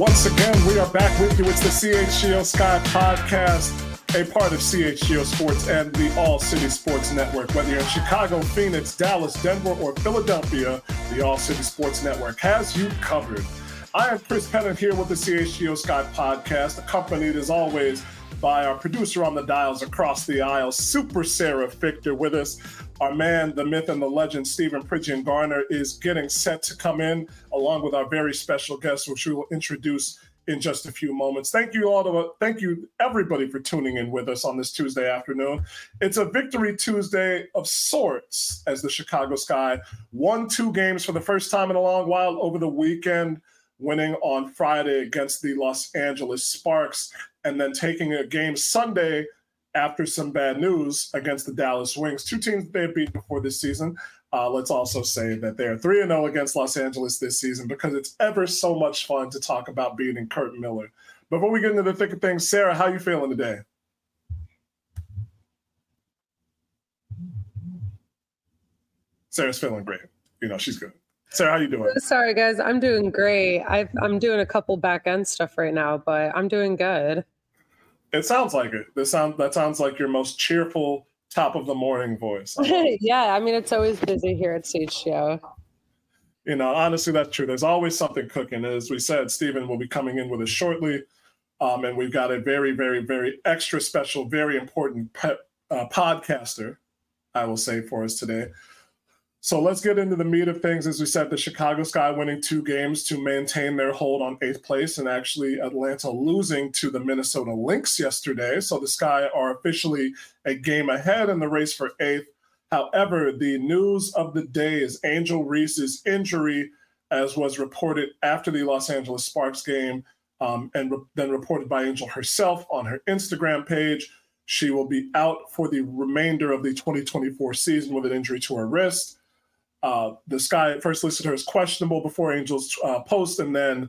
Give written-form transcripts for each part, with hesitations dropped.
Once again, we are back with you. It's the CHGO Sky Podcast, a part of CHGO Sports and the All City Sports Network. Whether you're in Chicago, Phoenix, Dallas, Denver, or Philadelphia, the All City Sports Network has you covered. I am Chris Pennant here with the CHGO Sky Podcast, accompanied as always by our producer on the dials across the aisle, Super Sarah Fichter, with us. Our man, the myth and the legend, Stephen Pridgeon Garner, is getting set to come in, along with our very special guest, which we will introduce in just a few moments. Thank you everybody for tuning in with us on this Tuesday afternoon. It's a Victory Tuesday of sorts, as the Chicago Sky won 2 games for the first time in a long while over the weekend, winning on Friday against the Los Angeles Sparks, and then taking a game Sunday after some bad news against the Dallas Wings, 2 teams they have beaten before this season. Let's also say that they're 3-0 against Los Angeles this season, because it's ever so much fun to talk about beating Kurt Miller. Before we get into the thick of things, Sarah, how are you feeling today? Sarah's feeling great. She's good. Sarah, how you doing? Sorry, guys. I'm doing great. I'm doing a couple back-end stuff right now, but I'm doing good. It sounds like it. That sounds like your most cheerful top of the morning voice. Yeah, I mean, it's always busy here at CHGO. Honestly, that's true. There's always something cooking. As we said, Stephen will be coming in with us shortly. And we've got a very, very, very extra special, very important podcaster, I will say, for us today. So let's get into the meat of things. As we said, the Chicago Sky winning 2 games to maintain their hold on 8th place, and actually Atlanta losing to the Minnesota Lynx yesterday. So the Sky are officially a game ahead in the race for 8th. However, the news of the day is Angel Reese's injury, as was reported after the Los Angeles Sparks game, and then reported by Angel herself on her Instagram page. She will be out for the remainder of the 2024 season with an injury to her wrist. The Sky first listed her as questionable before Angel's post, and then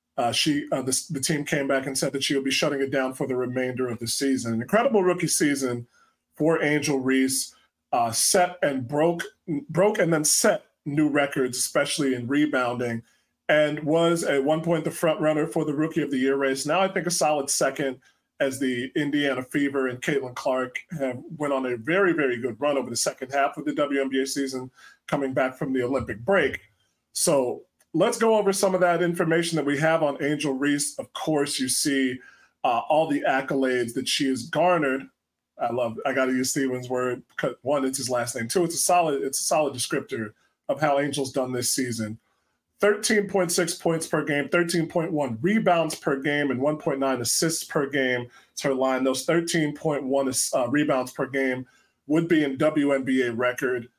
the team came back and said that she will be shutting it down for the remainder of the season. An incredible rookie season for Angel Reese, set and broke and then set new records, especially in rebounding, and was at one point the front runner for the Rookie of the Year race. Now I think a solid second, as the Indiana Fever and Caitlin Clark went on a very, very good run over the second half of the WNBA season, coming back from the Olympic break. So let's go over some of that information that we have on Angel Reese. Of course, you see all the accolades that she has garnered. I got to use Steven's word. 1, it's his last name. 2, it's a solid descriptor of how Angel's done this season. 13.6 points per game, 13.1 rebounds per game, and 1.9 assists per game. It's her line. Those 13.1 rebounds per game would be in WNBA record.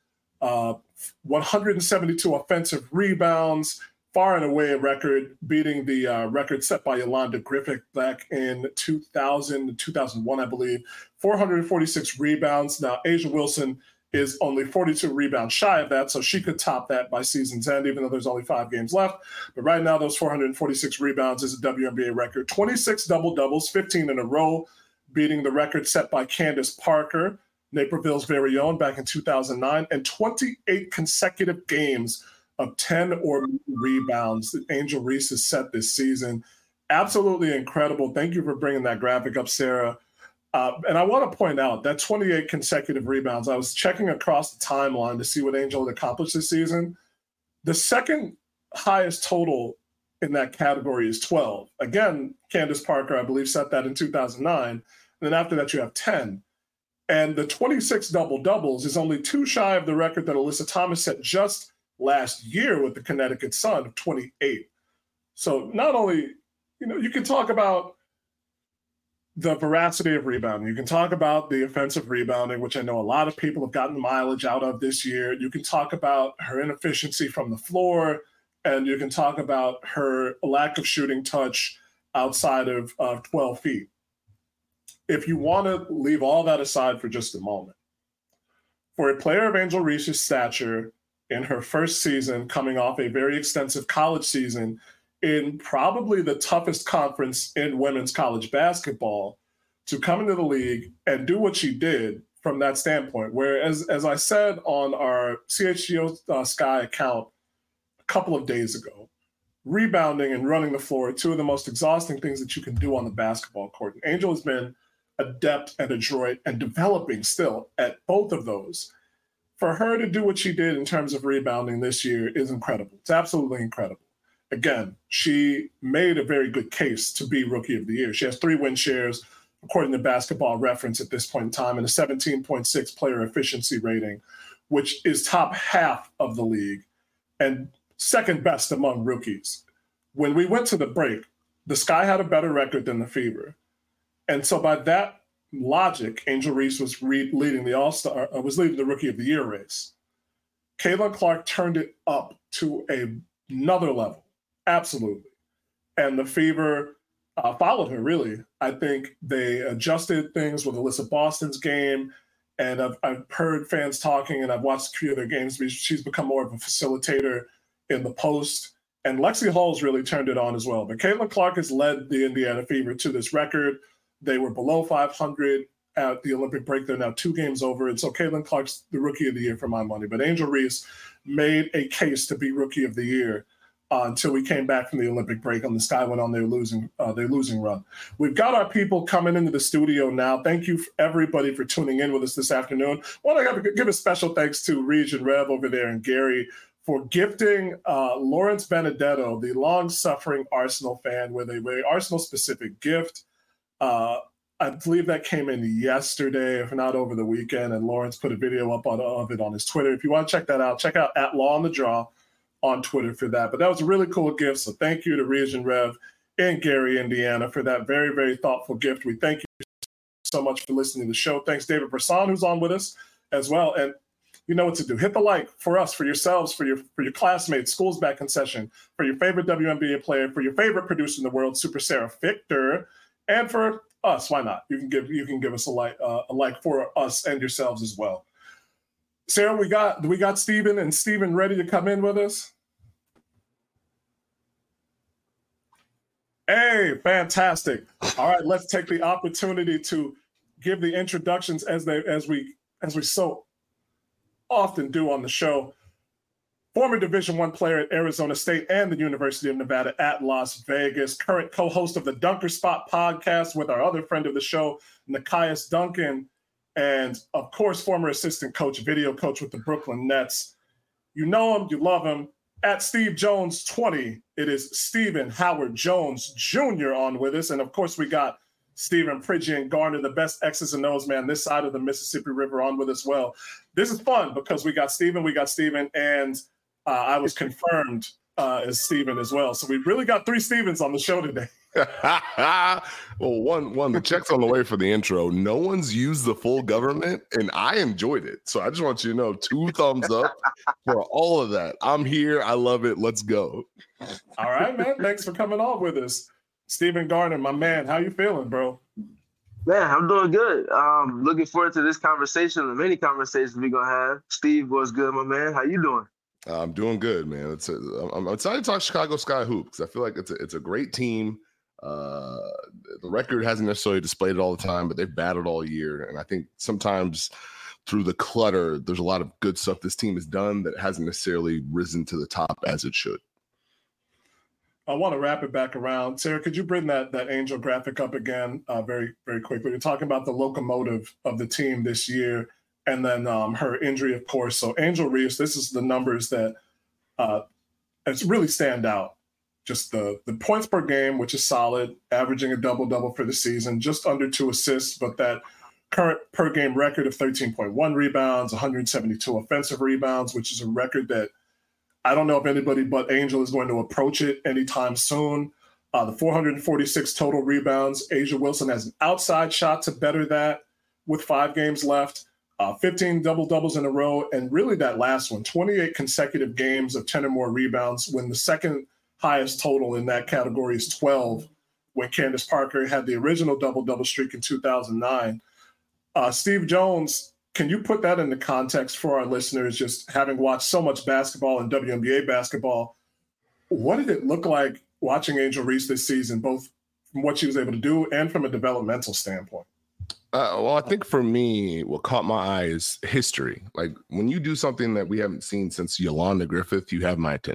172 offensive rebounds, far and away a record, beating the record set by Yolanda Griffith back in 2000, 2001, I believe. 446 rebounds. Now, A'ja Wilson is only 42 rebounds shy of that, so she could top that by season's end, even though there's only 5 games left. But right now, those 446 rebounds is a WNBA record. 26 double-doubles, 15 in a row, beating the record set by Candace Parker, Naperville's very own, back in 2009, and 28 consecutive games of 10 or more rebounds that Angel Reese has set this season. Absolutely incredible. Thank you for bringing that graphic up, Sarah. And I want to point out that 28 consecutive rebounds, I was checking across the timeline to see what Angel had accomplished this season. The second highest total in that category is 12. Again, Candace Parker, I believe, set that in 2009. And then after that, you have 10. And the 26 double-doubles is only 2 shy of the record that Alyssa Thomas set just last year with the Connecticut Sun of 28. So not only, you can talk about the veracity of rebounding. You can talk about the offensive rebounding, which I know a lot of people have gotten mileage out of this year. You can talk about her inefficiency from the floor, and you can talk about her lack of shooting touch outside of 12 feet. If you want to leave all that aside for just a moment, for a player of Angel Reese's stature in her first season, coming off a very extensive college season in probably the toughest conference in women's college basketball, to come into the league and do what she did from that standpoint, where, as I said on our CHGO Sky account a couple of days ago, rebounding and running the floor are two of the most exhausting things that you can do on the basketball court. And Angel has been adept and adroit and developing still at both of those. For her to do what she did in terms of rebounding this year is incredible. It's absolutely incredible. Again, she made a very good case to be Rookie of the Year. She has 3 win shares, according to Basketball Reference at this point in time, and a 17.6 player efficiency rating, which is top half of the league and second best among rookies. When we went to the break, the Sky had a better record than the Fever. And so by that logic, Angel Reese was leading the All-Star, was leading the Rookie of the Year race. Caitlin Clark turned it up to another level, absolutely. And the Fever followed her, really. I think they adjusted things with Alyssa Boston's game, and I've heard fans talking, and I've watched a few of their games. She's become more of a facilitator in the post, and Lexi Hall's really turned it on as well. But Caitlin Clark has led the Indiana Fever to this record. They were below 500 at the Olympic break. They're now 2 games over, and so Caitlin Clark's the Rookie of the Year for my money. But Angel Reese made a case to be Rookie of the Year until we came back from the Olympic break and the Sky went on their losing run. We've got our people coming into the studio now. Thank you, everybody, for tuning in with us this afternoon. I want to give a special thanks to Region Rev over there and Gary for gifting Lawrence Benedetto, the long-suffering Arsenal fan, with a very Arsenal-specific gift. I believe that came in yesterday, if not over the weekend, and Lawrence put a video up of it on his Twitter. If you want to check that out, check out @LawOnTheDraw on Twitter for that. But that was a really cool gift, so thank you to Region Rev in Gary, Indiana, for that very, very thoughtful gift. We thank you so much for listening to the show. Thanks, David Brisson, who's on with us as well. And you know what to do. Hit the like for us, for yourselves, for your classmates, school's back in session, for your favorite WNBA player, for your favorite producer in the world, Super Sarah Victor, and for us. Why not? You can give us a like for us and yourselves as well. Sarah, we got Steven and Steven ready to come in with us. Hey, fantastic. All right, let's take the opportunity to give the introductions as we so often do on the show. Former Division I player at Arizona State and the University of Nevada at Las Vegas, current co-host of the Dunker Spot podcast with our other friend of the show, Nekias Duncan, and of course, former assistant coach, video coach with the Brooklyn Nets. You know him, you love him. At Steve Jones 20, it is Stephen Howard Jones Jr. on with us. And of course, we got Stephen Pridgeon Garner, the best X's and O's man this side of the Mississippi River, on with us well. This is fun because we got Stephen, and I was confirmed as Stephen as well. So we really got 3 Stephens on the show today. Well, one, the check's on the way for the intro. No one's used the full government, and I enjoyed it. So I just want you to know, 2 thumbs up for all of that. I'm here. I love it. Let's go. All right, man. Thanks for coming on with us. Stephen Garner, my man. How you feeling, bro? Man, I'm doing good. Looking forward to this conversation and many conversations we're going to have. Steve, what's good, my man? How you doing? I'm doing good, man. I'm excited to talk Chicago Sky Hoop because I feel like it's a great team. The record hasn't necessarily displayed it all the time, but they've battled all year. And I think sometimes through the clutter, there's a lot of good stuff this team has done that hasn't necessarily risen to the top as it should. I want to wrap it back around. Sarah, could you bring that Angel graphic up again very, very quickly? You're talking about the locomotive of the team this year and then her injury, of course. So Angel Reese, this is the numbers that it's really stand out. Just the points per game, which is solid, averaging a double-double for the season, just under 2 assists, but that current per-game record of 13.1 rebounds, 172 offensive rebounds, which is a record that I don't know if anybody but Angel is going to approach it anytime soon. The 446 total rebounds. A'ja Wilson has an outside shot to better that with 5 games left. 15 double-doubles in a row, and really that last one, 28 consecutive games of 10 or more rebounds, when the second highest total in that category is 12, when Candace Parker had the original double-double streak in 2009. Steve Jones, can you put that into context for our listeners, just having watched so much basketball and WNBA basketball? What did it look like watching Angel Reese this season, both from what she was able to do and from a developmental standpoint? Well, I think for me, what caught my eye is history. Like when you do something that we haven't seen since Yolanda Griffith, you have my attention.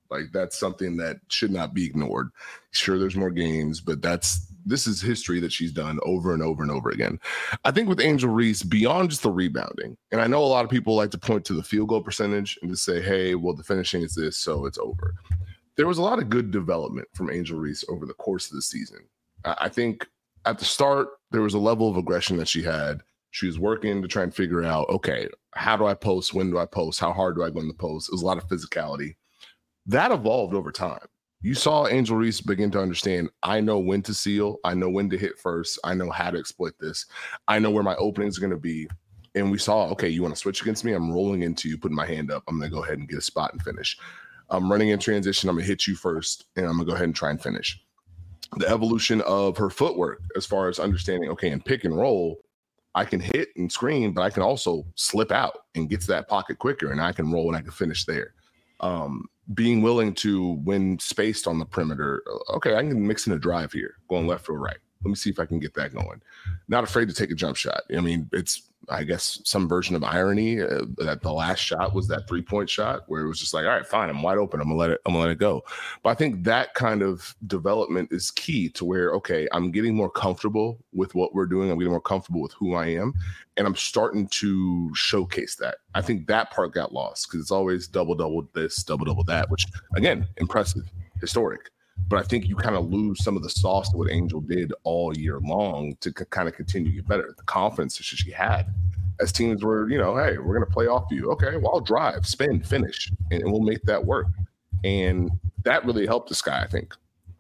Like, that's something that should not be ignored. Sure, there's more games, but this is history that she's done over and over and over again. I think with Angel Reese, beyond just the rebounding, and I know a lot of people like to point to the field goal percentage and to say, hey, well, the finishing is this, so it's over. There was a lot of good development from Angel Reese over the course of the season. I think at the start, there was a level of aggression that she had. She was working to try and figure out, okay, how do I post? When do I post? How hard do I go in the post? It was a lot of physicality. That evolved over time. You saw Angel Reese begin to understand, I know when to seal. I know when to hit first. I know how to exploit this. I know where my openings are going to be. And we saw, okay, you want to switch against me? I'm rolling into you, putting my hand up. I'm going to go ahead and get a spot and finish. I'm running in transition. I'm going to hit you first, and I'm going to go ahead and try and finish. The evolution of her footwork as far as understanding, okay, in pick and roll, I can hit and screen, but I can also slip out and get to that pocket quicker, and I can roll and I can finish there. Being willing to win spaced on the perimeter. Okay, I can mix in a drive here, going left or right. Let me see if I can get that going. Not afraid to take a jump shot. I mean, it's, I guess, some version of irony that the last shot was that 3-point shot where it was just like, all right, fine, I'm wide open. I'm gonna let it go. But I think that kind of development is key to where, okay, I'm getting more comfortable with what we're doing. I'm getting more comfortable with who I am, and I'm starting to showcase that. I think that part got lost because it's always double this, double that, which, again, impressive, historic. But I think you kind of lose some of the sauce that what Angel did all year long to kind of continue to get better. The confidence that she had as teams were, you know, hey, we're going to play off you. Okay, well, I'll drive, spin, finish, and we'll make that work. And that really helped this guy, I think.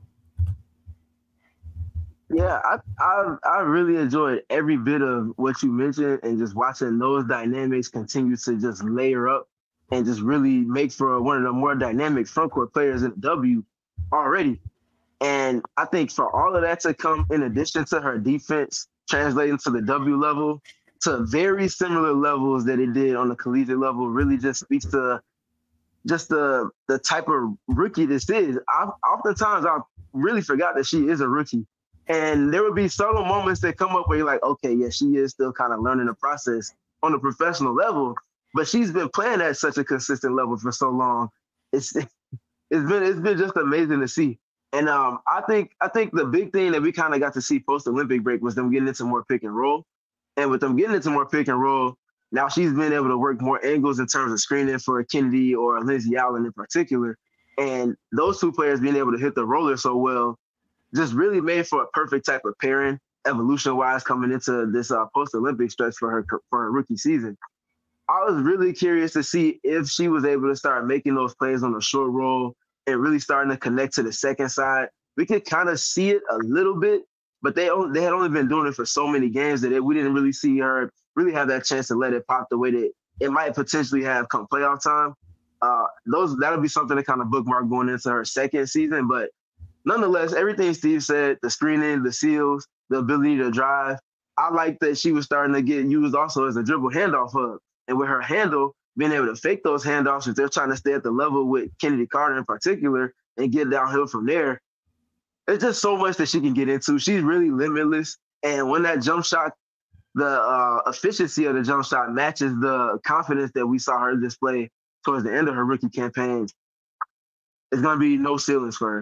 Yeah, I really enjoyed every bit of what you mentioned, and just watching those dynamics continue to just layer up and just really make for one of the more dynamic frontcourt players in the W already. And I think for all of that to come in addition to her defense translating to the W level to very similar levels that it did on the collegiate level really just speaks to just the type of rookie this is. Oftentimes I really forgot that she is a rookie. And there would be subtle moments that come up where you're like, okay, yeah, she is still kind of learning the process on a professional level, but she's been playing at such a consistent level for so long. It's been just amazing to see. And I think the big thing that we kind of got to see post-Olympic break was them getting into more pick and roll. And with them getting into more pick and roll, now she's been able to work more angles in terms of screening for Kennedy or Lindsay Allen in particular. And those two players being able to hit the roller so well just really made for a perfect type of pairing, evolution-wise, coming into this post-Olympic stretch for her rookie season. I was really curious to see if she was able to start making those plays on the short roll and really starting to connect to the second side. We could kind of see it a little bit, but they had only been doing it for so many games that we didn't really see her really have that chance to let it pop the way that it might potentially have come playoff time. That'll be something to kind of bookmark going into her second season. But nonetheless, everything Steve said, the screening, the seals, the ability to drive, I like that she was starting to get used also as a dribble handoff hub. And with her handle, being able to fake those handoffs if they're trying to stay at the level with Kennedy Carter in particular and get downhill from there, it's just so much that she can get into. She's really limitless. And when that jump shot, the efficiency of the jump shot matches the confidence that we saw her display towards the end of her rookie campaign, it's going to be no ceilings for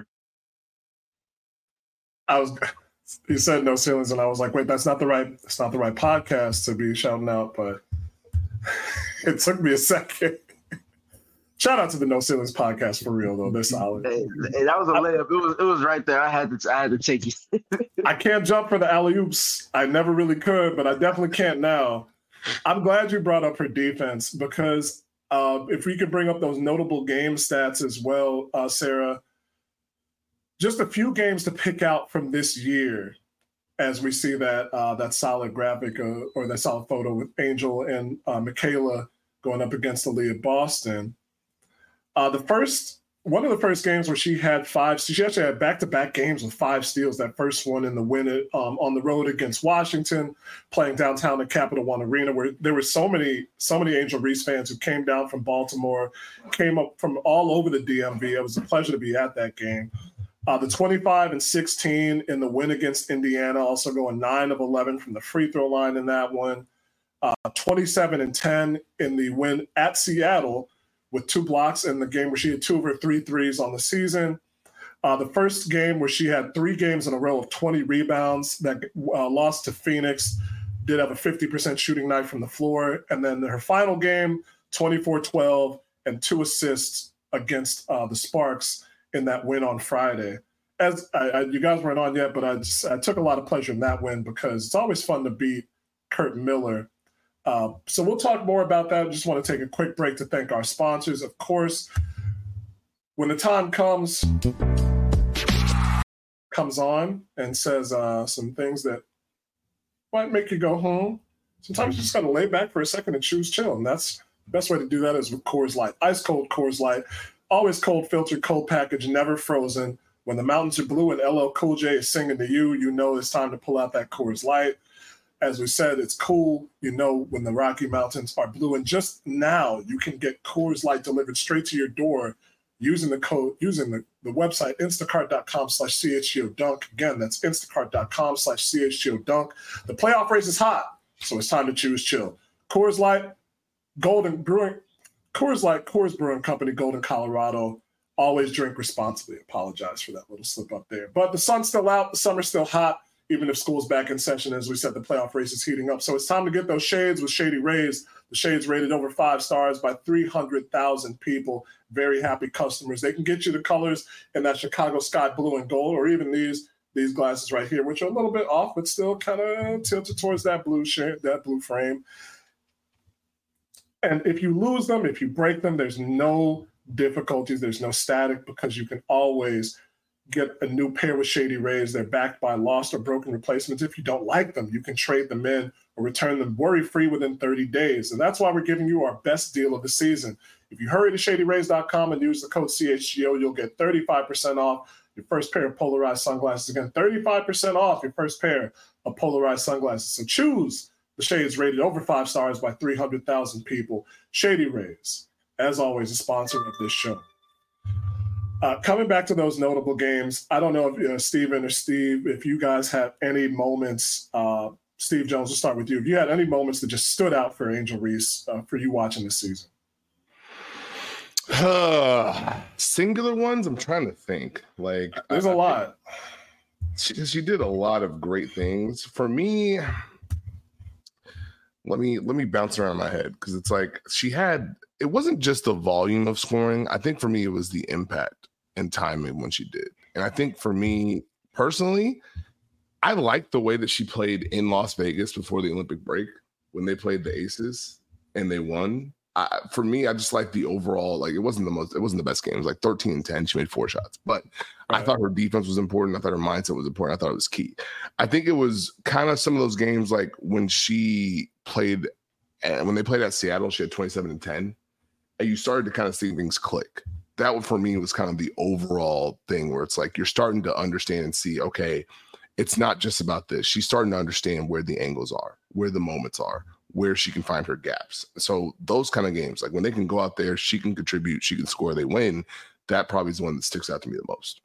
her. You said no ceilings, and I was like, wait, it's not the right podcast to be shouting out, but it took me a second. Shout out to the No Ceilings podcast for real though. They're solid. Hey, that was a layup. It was right there. I had to take you. I can't jump for the alley-oops. I never really could, but I definitely can't now. I'm glad you brought up her defense because if we could bring up those notable game stats as well, Sarah, just a few games to pick out from this year as we see that solid graphic or that solid photo with Angel and Michaela going up against Aaliyah Boston. One of the first games where she actually had back-to-back games with 5 steals. That first one in the win on the road against Washington, playing downtown at Capital One Arena, where there were so many Angel Reese fans who came down from Baltimore, came up from all over the DMV. It was a pleasure to be at that game. The 25 and 16 in the win against Indiana, also going 9 of 11 from the free throw line in that one. 27 and 10 in the win at Seattle, with 2 blocks in the game where she had 2 of her 3 threes on the season. The first game where she had 3 games in a row of 20 rebounds that lost to Phoenix, did have a 50% shooting night from the floor. And then her final game, 24-12 and 2 assists against the Sparks in that win on Friday. As you guys weren't on yet, but I took a lot of pleasure in that win because it's always fun to beat Curt Miller. So we'll talk more about that. I just want to take a quick break to thank our sponsors. Of course, when the time comes on and says some things that might make you go home, sometimes you just got to lay back for a second and choose chill. And that's the best way to do that is with Coors Light. Ice cold Coors Light, always cold filtered, cold package, never frozen. When the mountains are blue and LL Cool J is singing to you, you know it's time to pull out that Coors Light. As we said, it's cool, you know, when the Rocky Mountains are blue. And just now, you can get Coors Light delivered straight to your door using the website instacart.com/CHGODunk. Again, that's instacart.com/CHGODunk. The playoff race is hot, so it's time to choose chill. Coors Light, Coors Brewing Company, Golden, Colorado. Always drink responsibly. Apologize for that little slip up there. But the sun's still out, the summer's still hot, even if school's back in session. As we said, the playoff race is heating up. So it's time to get those shades with Shady Rays. The shades rated over 5 stars by 300,000 people. Very happy customers. They can get you the colors in that Chicago sky blue and gold, or even these glasses right here, which are a little bit off, but still kind of tilted towards that blue shade, that blue frame. And if you lose them, if you break them, there's no difficulties, there's no static, because you can always get a new pair with Shady Rays. They're backed by lost or broken replacements. If you don't like them, you can trade them in or return them worry-free within 30 days. And that's why we're giving you our best deal of the season. If you hurry to ShadyRays.com and use the code CHGO, you'll get 35% off your first pair of polarized sunglasses. Again, 35% off your first pair of polarized sunglasses. So choose the shades rated over 5 stars by 300,000 people. Shady Rays, as always, a sponsor of this show. Coming back to those notable games, I don't know if Steven or Steve, if you guys have any moments, Steve Jones, we'll start with you. If you had any moments that just stood out for Angel Reese for you watching this season. Singular ones? I'm trying to think. Like, there's a lot. She did a lot of great things. For me, let me bounce around my head, because it's like it wasn't just the volume of scoring. I think for me, it was the impact and timing when she did. And I think for me personally, I liked the way that she played in Las Vegas before the Olympic break when they played the Aces and they won. For me, I just like the overall, like it wasn't the best game. It was like 13-10. She made 4 shots, but right. I thought her defense was important. I thought her mindset was important. I thought it was key. I think it was kind of some of those games like when she played, when they played at Seattle, she had 27-10, and you started to kind of see things click. That one for me was kind of the overall thing where it's like you're starting to understand and see, okay, it's not just about this. She's starting to understand where the angles are, where the moments are, where she can find her gaps. So those kind of games, like when they can go out there, she can contribute, she can score, they win. That probably is the one that sticks out to me the most.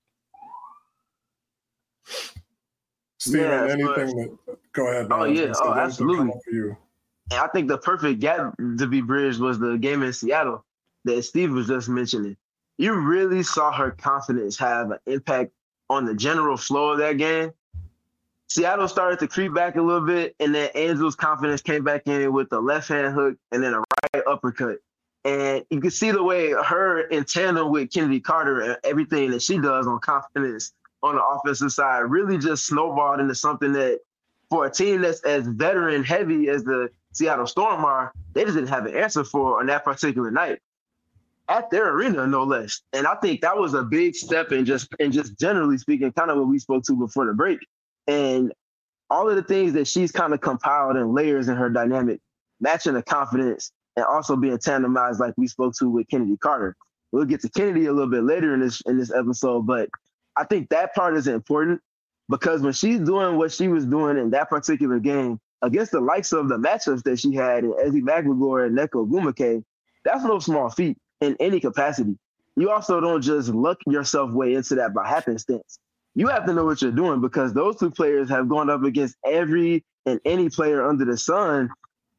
Steven, anything go ahead. Man. Oh, yeah. Oh, absolutely. For you. And I think the perfect gap to be bridged was the game in Seattle that Steve was just mentioning. You really saw her confidence have an impact on the general flow of that game. Seattle started to creep back a little bit, and then Angel's confidence came back in with the left-hand hook and then a right uppercut. And you can see the way her in tandem with Kennedy Carter and everything that she does on confidence on the offensive side really just snowballed into something that, for a team that's as veteran-heavy as the Seattle Storm are, they just didn't have an answer for on that particular night at their arena, no less. And I think that was a big step in just generally speaking, kind of what we spoke to before the break. And all of the things that she's kind of compiled in layers in her dynamic, matching the confidence and also being tandemized like we spoke to with Kennedy Carter. We'll get to Kennedy a little bit later in this episode, but I think that part is important because when she's doing what she was doing in that particular game against the likes of the matchups that she had in Ezi Magbegor and Nneka Ogwumike, that's no small feat in any capacity. You also don't just luck yourself way into that by happenstance. You have to know what you're doing because those two players have gone up against every and any player under the sun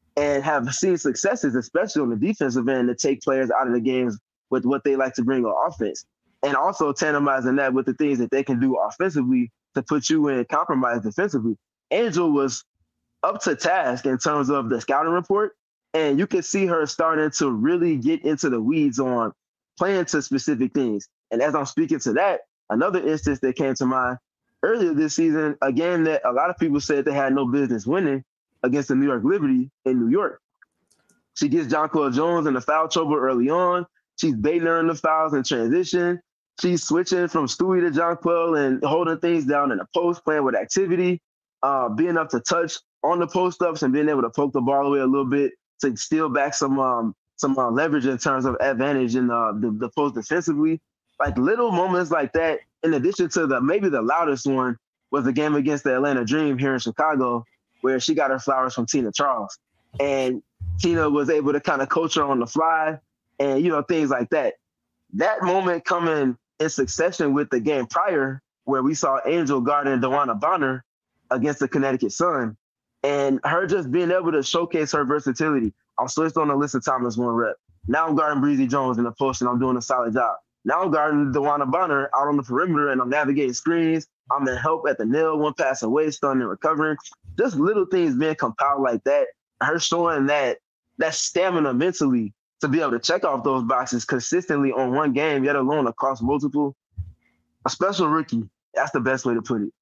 and have seen successes, especially on the defensive end, to take players out of the games with what they like to bring on offense. And also tandemizing that with the things that they can do offensively to put you in compromise defensively. Angel was up to task in terms of the scouting report, and you can see her starting to really get into the weeds on playing to specific things. And as I'm speaking to that, another instance that came to mind earlier this season, a game that a lot of people said they had no business winning against the New York Liberty in New York. She gets Jonquel Jones in the foul trouble early on. She's baiting her in the fouls in transition. She's switching from Stewie to Jonquel and holding things down in the post, playing with activity, being up to touch on the post-ups and being able to poke the ball away a little bit to steal back some leverage in terms of advantage in the post defensively. Like little moments like that, in addition to maybe the loudest one was the game against the Atlanta Dream here in Chicago, where she got her flowers from Tina Charles. And Tina was able to kind of coach her on the fly and, things like that. That moment coming in succession with the game prior, where we saw Angel guarding DeWanna Bonner against the Connecticut Sun, and her just being able to showcase her versatility. I'm switched on Alyssa Thomas one rep. Now I'm guarding Breezy Jones in the post, and I'm doing a solid job. Now I'm guarding DeWanna Bonner out on the perimeter, and I'm navigating screens. I'm in help at the nail, one pass away, stunning and recovering. Just little things being compiled like that. Her showing that stamina mentally to be able to check off those boxes consistently on one game, yet alone across multiple. A special rookie. That's the best way to put it.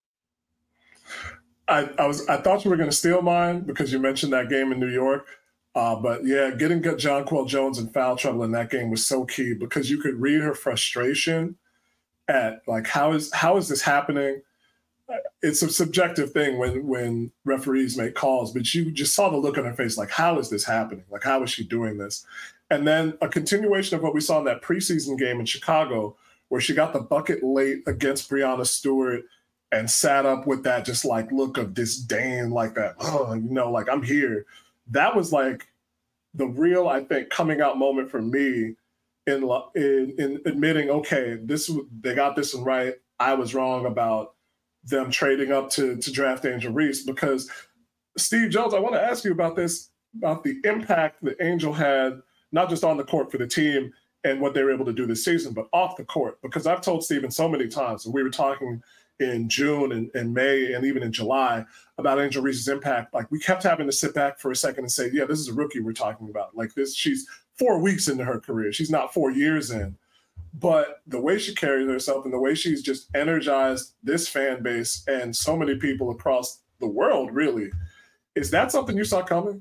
I thought you were going to steal mine because you mentioned that game in New York. But yeah, getting Jonquel Jones in foul trouble in that game was so key because you could read her frustration at like, how is this happening? It's a subjective thing when referees make calls, but you just saw the look on her face, like, how is this happening? Like, how is she doing this? And then a continuation of what we saw in that preseason game in Chicago, where she got the bucket late against Breanna Stewart and sat up with that just like look of disdain, like that, like I'm here. That was like the real, I think, coming out moment for me in admitting, okay, they got this one right. I was wrong about them trading up to draft Angel Reese, because Steve Jones, I want to ask you about this, about the impact that Angel had, not just on the court for the team and what they were able to do this season, but off the court. Because I've told Steven so many times, and we were talking in June and May and even in July about Angel Reese's impact. Like, we kept having to sit back for a second and say, yeah, this is a rookie we're talking about. Like this, she's 4 weeks into her career. She's not 4 years in. But the way she carries herself and the way she's just energized this fan base and so many people across the world, really, is that something you saw coming?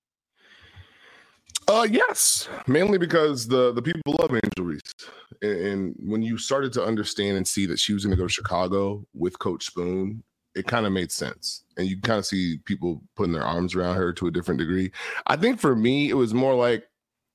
Yes, mainly because the people love Angel Reese. And when you started to understand and see that she was going to go to Chicago with Coach Spoon, it kind of made sense. And you kind of see people putting their arms around her to a different degree. I think for me, it was more like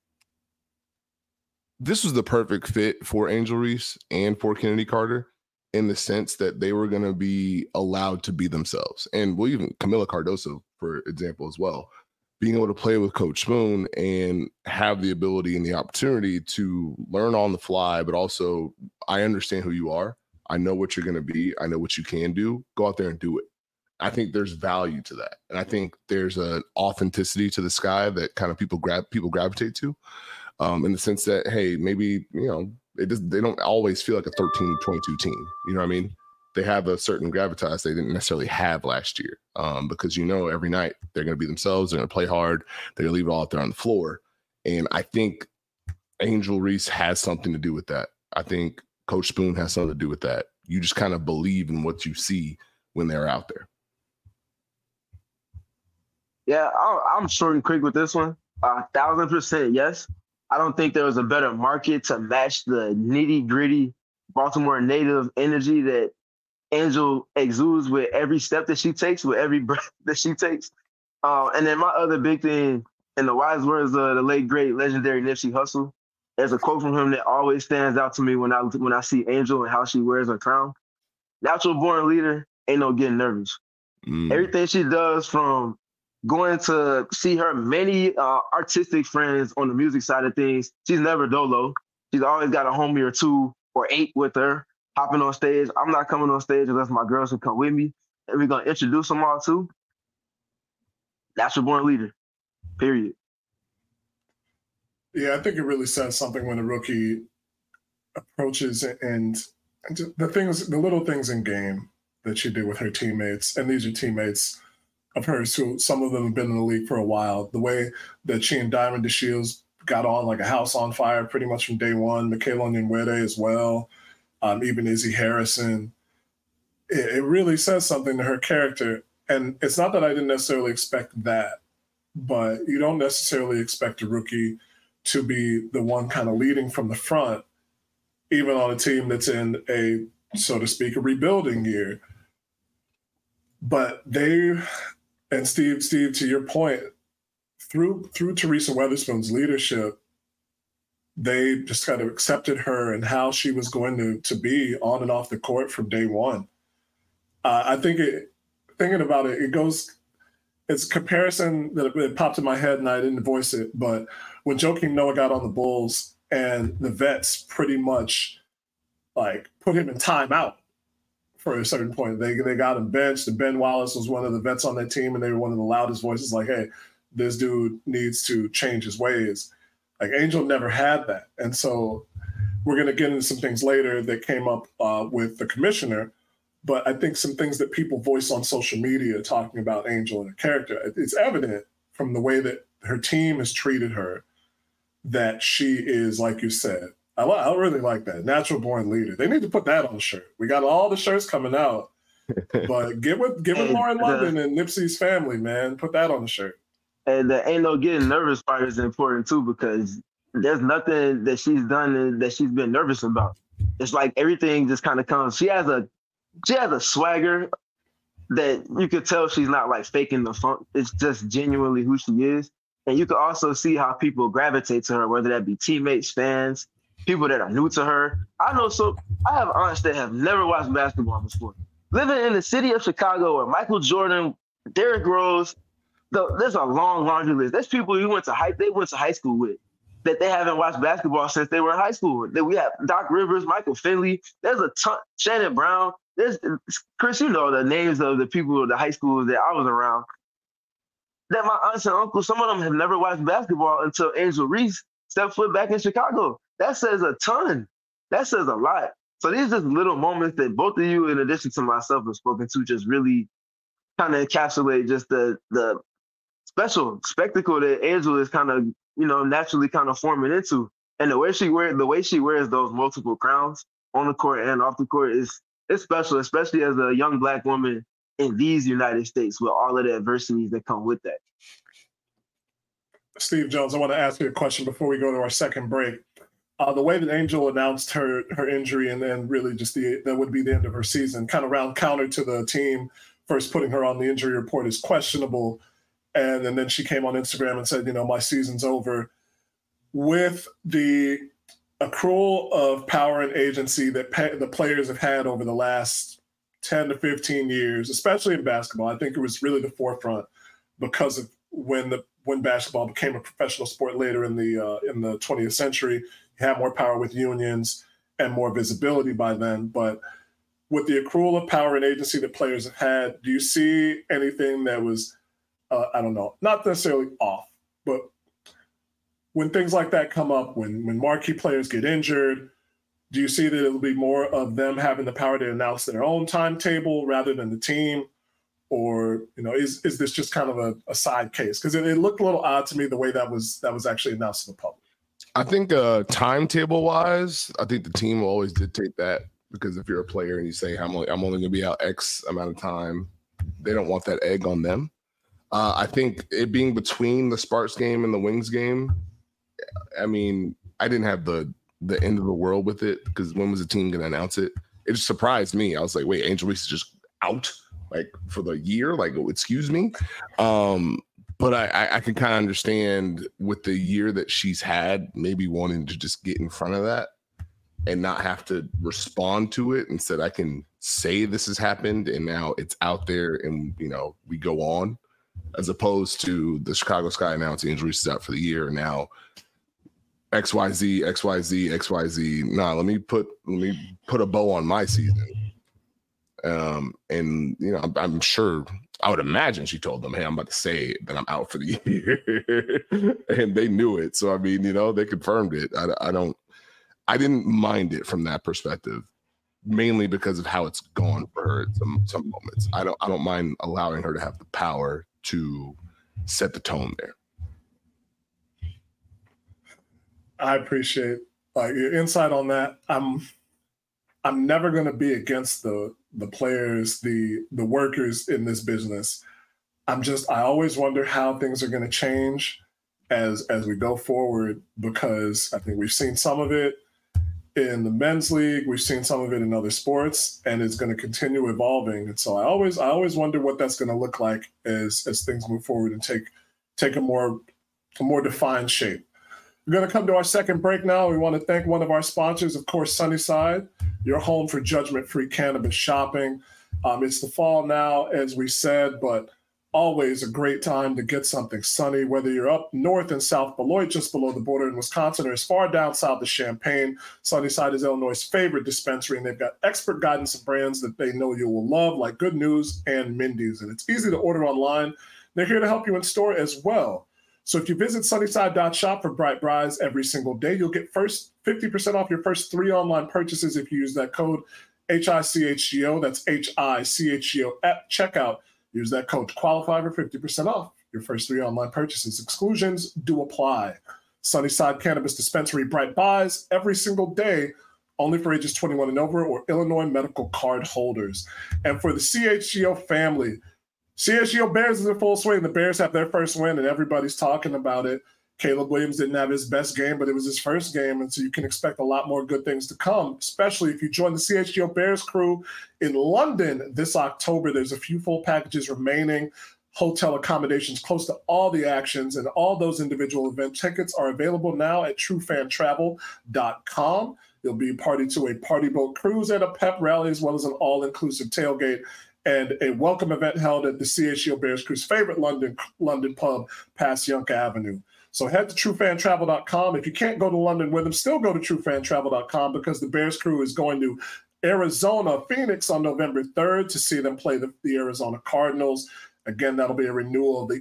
this was the perfect fit for Angel Reese and for Kennedy Carter, in the sense that they were going to be allowed to be themselves. And well, even Camila Cardoso, for example, as well. Being able to play with Coach Spoon and have the ability and the opportunity to learn on the fly, but also I understand who you are. I know what you're going to be. I know what you can do. Go out there and do it. I think there's value to that. And I think there's an authenticity to this guy that kind of people gravitate to, in the sense that, hey, maybe, they don't always feel like a 13-22 team. You know what I mean? They have a certain gravitas they didn't necessarily have last year, because every night they're going to be themselves. They're going to play hard. They're going to leave it all out there on the floor. And I think Angel Reese has something to do with that. I think Coach Spoon has something to do with that. You just kind of believe in what you see when they're out there. Yeah, I'm short and quick with this one. 1,000% yes. I don't think there was a better market to match the nitty-gritty Baltimore native energy that Angel exudes with every step that she takes, with every breath that she takes. And then my other big thing, in the wise words of the late, great, legendary Nipsey Hussle, there's a quote from him that always stands out to me when I see Angel and how she wears her crown. Natural born leader, ain't no getting nervous. Everything she does, from going to see her many artistic friends on the music side of things, she's never dolo. She's always got a homie or 2 or 8 with her, hopping on stage. I'm not coming on stage unless my girls will come with me. And we're going to introduce them all too. Natural born leader. period. Yeah, I think it really says something when a rookie approaches and the little things in game that she did with her teammates, and these are teammates of hers who some of them have been in the league for a while. The way that she and Diamond DeShields got on like a house on fire pretty much from day one. Michaela Onyenwere as well, even Izzy Harrison. It really says something to her character. And it's not that I didn't necessarily expect that, but you don't necessarily expect a rookie to be the one kind of leading from the front, even on a team that's in a, so to speak, a rebuilding year. But and Steve, to your point, through Teresa Weatherspoon's leadership, they just kind of accepted her and how she was going to be on and off the court from day one. I think thinking about it, it's comparison that it popped in my head and I didn't voice it, but when Joakim Noah got on the Bulls and the vets pretty much like put him in timeout for a certain point. They got him benched, and Ben Wallace was one of the vets on that team, and they were one of the loudest voices like, hey, this dude needs to change his ways. Like Angel never had that. And so we're going to get into some things later that came up with the commissioner, but I think some things that people voice on social media talking about Angel and her character, it's evident from the way that her team has treated her that she is, like you said, I really like that. Natural born leader. They need to put that on a shirt. We got all the shirts coming out, but get with Lauren London and Nipsey's family, man. Put that on the shirt. And the ain't no getting nervous part is important too, because there's nothing that she's done that she's been nervous about. It's like everything just kind of comes. She has a swagger that you could tell she's not like faking the funk. It's just genuinely who she is. And you can also see how people gravitate to her, whether that be teammates, fans, people that are new to her. I have aunts that have never watched basketball before. Living in the city of Chicago where Michael Jordan, Derrick Rose, there's a long laundry list. There's people they went to high school with that they haven't watched basketball since they were in high school. We have Doc Rivers, Michael Finley. There's a ton, Shannon Brown. There's Chris, you know the names of the people of the high schools that I was around. That my aunts and uncles, some of them have never watched basketball until Angel Reese stepped foot back in Chicago. That says a ton. That says a lot. So these are just little moments that both of you, in addition to myself, have spoken to, just really kind of encapsulate just the special spectacle that Angel is kind of, naturally kind of forming into. And the way she wears those multiple crowns on the court and off the court is special, especially as a young Black woman in these United States with all of the adversities that come with that. Steve Jones, I want to ask you a question before we go to our second break. The way that Angel announced her injury and then really just that would be the end of her season, kind of round counter to the team first putting her on the injury report is questionable. And then she came on Instagram and said, my season's over. With the accrual of power and agency that the players have had over the last 10 to 15 years, especially in basketball, I think it was really the forefront because of when basketball became a professional sport later in the 20th century. You had more power with unions and more visibility by then. But with the accrual of power and agency that players have had, do you see anything that was, I don't know, not necessarily off, but when things like that come up, when marquee players get injured, do you see that it'll be more of them having the power to announce their own timetable rather than the team? Or, is this just kind of a side case? Because it looked a little odd to me the way that was actually announced to the public. I think timetable-wise, I think the team will always dictate that, because if you're a player and you say, I'm only going to be out X amount of time, they don't want that egg on them. I think it being between the Sparks game and the Wings game, I mean, I didn't have the end of the world with it, because when was the team going to announce it? It just surprised me. I was like, wait, Angel Reese is just out like for the year? Like, excuse me? But I can kind of understand with the year that she's had, maybe wanting to just get in front of that and not have to respond to it. Instead, I can say this has happened and now it's out there and, we go on, as opposed to the Chicago Sky announcing Angel Reese is out for the year. And now XYZ. Nah, let me put a bow on my season. And I'm sure I would imagine she told them, hey, I'm about to say that I'm out for the year. And they knew it. So, I mean, they confirmed it. I didn't mind it from that perspective, mainly because of how it's gone for her at some moments. I don't mind allowing her to have the power to set the tone there. I appreciate your insight on that. I'm never going to be against the players, the workers in this business. I always wonder how things are going to change as we go forward, because I think we've seen some of it in the men's league, we've seen some of it in other sports, and it's going to continue evolving. And so I always wonder what that's going to look like as things move forward and take a more defined shape. We're going to come to our second break now. We want to thank one of our sponsors, of course, Sunnyside, your home for judgment-free cannabis shopping. It's the fall now, as we said, but always a great time to get something sunny, whether you're up north in South Beloit, just below the border in Wisconsin, or as far down south as Champaign. Sunnyside is Illinois' favorite dispensary, and they've got expert guidance and brands that they know you will love, like Good News and Mindy's. And it's easy to order online. They're here to help you in store as well. So if you visit sunnyside.shop for Bright Brides every single day, you'll get 50% off your first 3 online purchases if you use that code HICHGO. That's HICHGO at checkout. Use that code to qualify for 50% off your first 3 online purchases. Exclusions do apply. Sunnyside Cannabis Dispensary, Bright Buys every single day, only for ages 21 and over or Illinois medical card holders. And for the CHGO family, CHGO Bears is in full swing. The Bears have their first win, and everybody's talking about it. Caleb Williams didn't have his best game, but it was his first game, and so you can expect a lot more good things to come, especially if you join the CHGO Bears crew in London this October. There's a few full packages remaining, hotel accommodations close to all the actions, and all those individual event tickets are available now at truefantravel.com. You'll be party to a party boat cruise and a pep rally, as well as an all-inclusive tailgate and a welcome event held at the CHGO Bears crew's favorite London pub, past Yonke Avenue. So head to truefantravel.com. If you can't go to London with them, still go to truefantravel.com, because the Bears crew is going to Arizona, Phoenix on November 3rd to see them play the Arizona Cardinals. Again, that'll be a renewal of the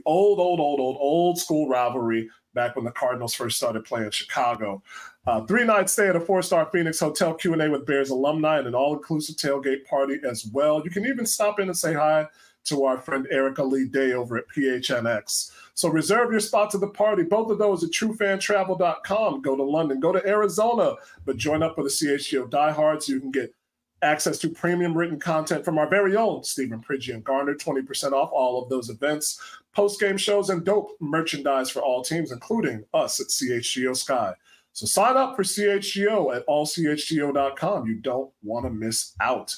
old school rivalry back when the Cardinals first started playing Chicago. 3-night stay at a 4-star Phoenix hotel, Q&A with Bears alumni, and an all-inclusive tailgate party as well. You can even stop in and say hi to our friend Erica Lee Day over at PHNX. So reserve your spots at the party. Both of those at truefantravel.com. Go to London, go to Arizona, but join up with the CHGO diehards. You can get access to premium written content from our very own Stephen Pridgey and Garner, 20% off all of those events, post-game shows, and dope merchandise for all teams, including us at CHGO Sky. So sign up for CHGO at allchgo.com. You don't want to miss out.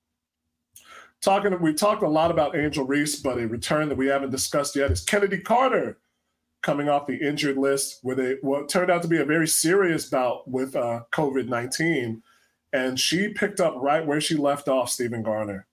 We talked a lot about Angel Reese, but a return that we haven't discussed yet is Kennedy Carter, coming off the injured list with what turned out to be a very serious bout with COVID-19. And she picked up right where she left off, Stephen Garner.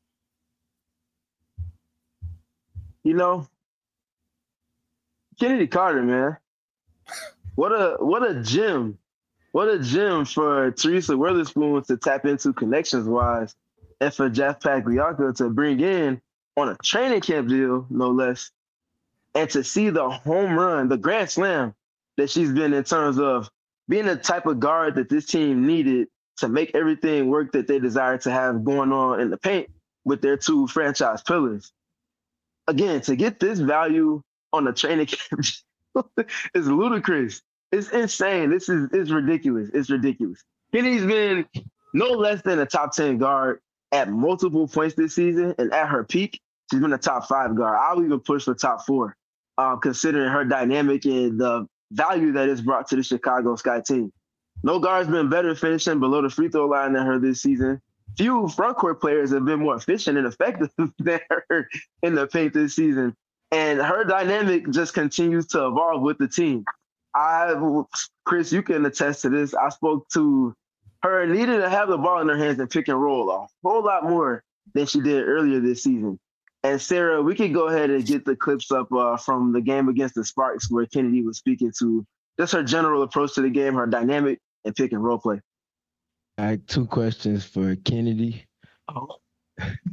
Kennedy Carter, man. What a gem. What a gem for Teresa Witherspoon to tap into connections-wise, and for Jeff Pagliacca to bring in on a training camp deal, no less, and to see the home run, the grand slam that she's been in terms of being the type of guard that this team needed to make everything work that they desire to have going on in the paint with their 2 franchise pillars. Again, to get this value on a training camp is ludicrous. It's insane. It's ridiculous. It's ridiculous. Kenny's been no less than a top 10 guard at multiple points this season, and at her peak, she's been a top 5 guard. I'll even push for top 4, considering her dynamic and the value that it's brought to the Chicago Sky team. No guard's been better finishing below the free throw line than her this season. Few front court players have been more efficient and effective than her in the paint this season. And her dynamic just continues to evolve with the team. Chris, you can attest to this. I spoke to her needing to have the ball in her hands and pick and roll a whole lot more than she did earlier this season. And Sarah, we could go ahead and get the clips up from the game against the Sparks where Kennedy was speaking to just her general approach to the game, her dynamic, and pick and roll play. I had 2 questions for Kennedy.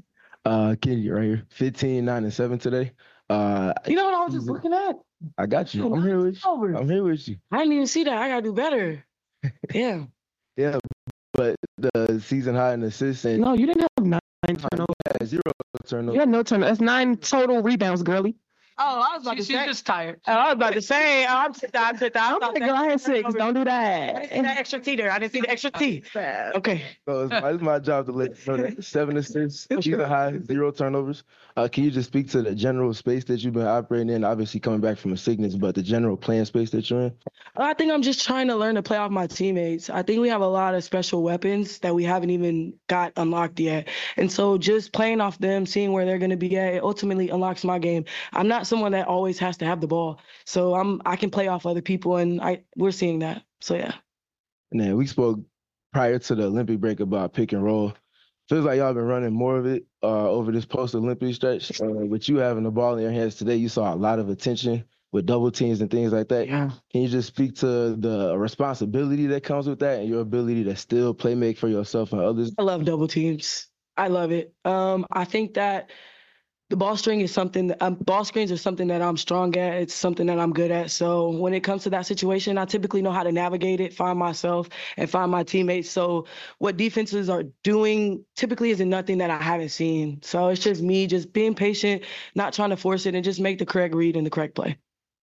Kennedy right here. 15, 9, and 7 today. You know what I was just looking at? I got you. I'm here with you. I'm here with you. I didn't even see that. I gotta do better. Yeah. Yeah, but the season high in assists and No, you didn't have 9 turnovers. zero turnovers. You had no turnovers. That's 9 total rebounds, girly. Oh, I was about to say. She's just tired. I was about to say. I'm like, girl, I had 6. Don't do that. I didn't see that extra T there. I didn't see the extra T. Okay. So it's my job to let you know that 7 assists, season high, 0 turnovers. Can you just speak to the general space that you've been operating in? Obviously coming back from a sickness, but the general playing space that you're in? I think I'm just trying to learn to play off my teammates. I think we have a lot of special weapons that we haven't even got unlocked yet. And so just playing off them, seeing where they're going to be at, it ultimately unlocks my game. I'm not someone that always has to have the ball. So I can play off other people, and we're seeing that. So, yeah. And then we spoke prior to the Olympic break about pick and roll. Feels like y'all been running more of it over this post-Olympic stretch. With you having the ball in your hands today, you saw a lot of attention with double teams and things like that. Yeah. Can you just speak to the responsibility that comes with that and your ability to still play make for yourself and others? I love double teams. I love it. I think that the ball screens are something that I'm strong at. It's something that I'm good at. So when it comes to that situation, I typically know how to navigate it, find myself, and find my teammates. So what defenses are doing typically isn't nothing that I haven't seen. So it's just me just being patient, not trying to force it, and just make the correct read and the correct play.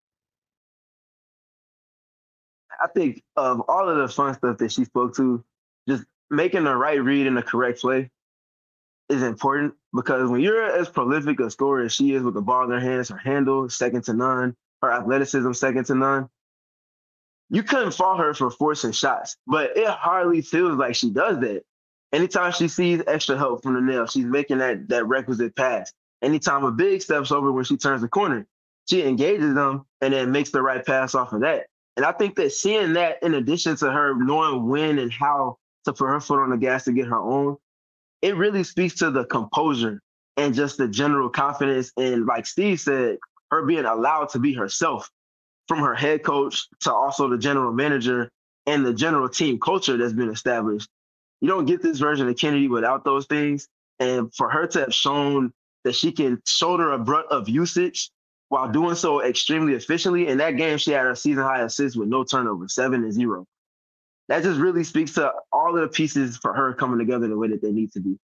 I think of all of the fun stuff that she spoke to, just making the right read and the correct play is important, because when you're as prolific a scorer as she is with the ball in her hands, her handle second to none, her athleticism second to none, you couldn't fault her for forcing shots, but it hardly feels like she does that. Anytime she sees extra help from the nail, she's making that requisite pass. Anytime a big steps over when she turns the corner, she engages them and then makes the right pass off of that. And I think that seeing that, in addition to her knowing when and how to put her foot on the gas to get her own, it really speaks to the composure and just the general confidence. And like Steve said, her being allowed to be herself, from her head coach to also the general manager and the general team culture that's been established. You don't get this version of Kennedy without those things. And for her to have shown that she can shoulder a brunt of usage while doing so extremely efficiently. In that game, she had her season high assists with no turnover, 7 and 0. That just really speaks to all of the pieces for her coming together the way that they need to be.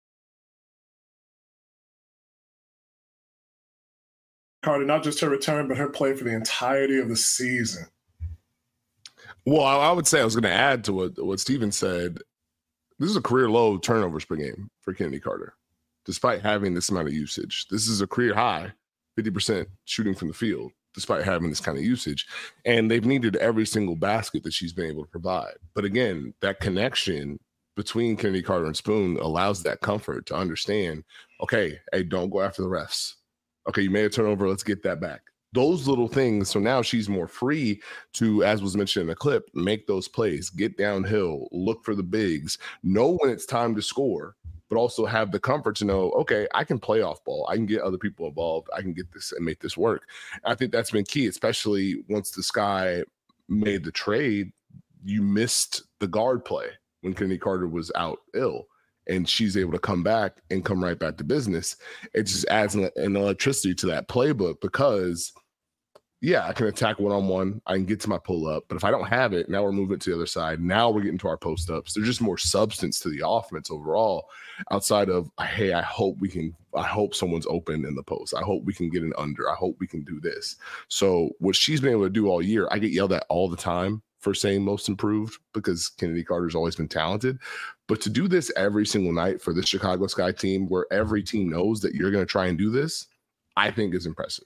Carter, not just her return, but her play for the entirety of the season. Well, I would say I was going to add to what Steven said. This is a career low turnovers per game for Kennedy Carter, despite having this amount of usage. This is a career high, 50% shooting from the field, despite having this kind of usage. And they've needed every single basket that she's been able to provide. But again, that connection between Kennedy Carter and Spoon allows that comfort to understand, okay, hey, don't go after the refs. Okay, you made a turnover, let's get that back. Those little things. So now she's more free to, as was mentioned in the clip, make those plays, get downhill, look for the bigs, know when it's time to score, but also have the comfort to know, okay, I can play off ball. I can get other people involved. I can get this and make this work. I think that's been key, especially once the Sky made the trade. You missed the guard play when Kennedy Carter was out ill, and she's able to come back and come right back to business. It just adds an electricity to that playbook because, yeah, I can attack one-on-one. I can get to my pull-up. But if I don't have it, now we're moving it to the other side. Now we're getting to our post-ups. There's just more substance to the offense overall outside of, hey, I hope someone's open in the post. I hope we can get an under. I hope we can do this. So what she's been able to do all year, I get yelled at all the time for saying most improved because Kennedy Carter's always been talented. But to do this every single night for the Chicago Sky team, where every team knows that you're going to try and do this, I think is impressive.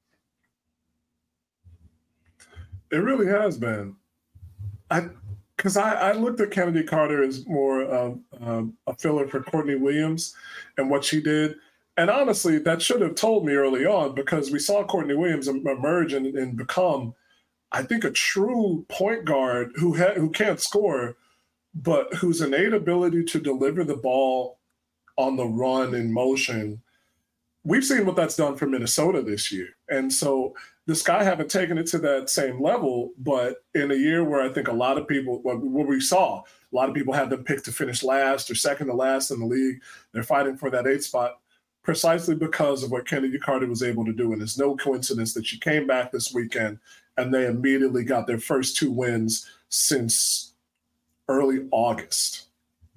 It really has been. Because I looked at Kennedy Carter as more of a filler for Courtney Williams and what she did. And honestly, that should have told me early on, because we saw Courtney Williams emerge and become, I think, a true point guard who can't score, but whose innate ability to deliver the ball on the run in motion. We've seen what that's done for Minnesota this year. And so the Sky haven't taken it to that same level, but in a year where I think a lot of people, what we saw, a lot of people had them picked to finish last or second to last in the league. They're fighting for that 8th spot. precisely because of what Kennedy Carter was able to do. And it's no coincidence that she came back this weekend and they immediately got their first 2 wins since early August.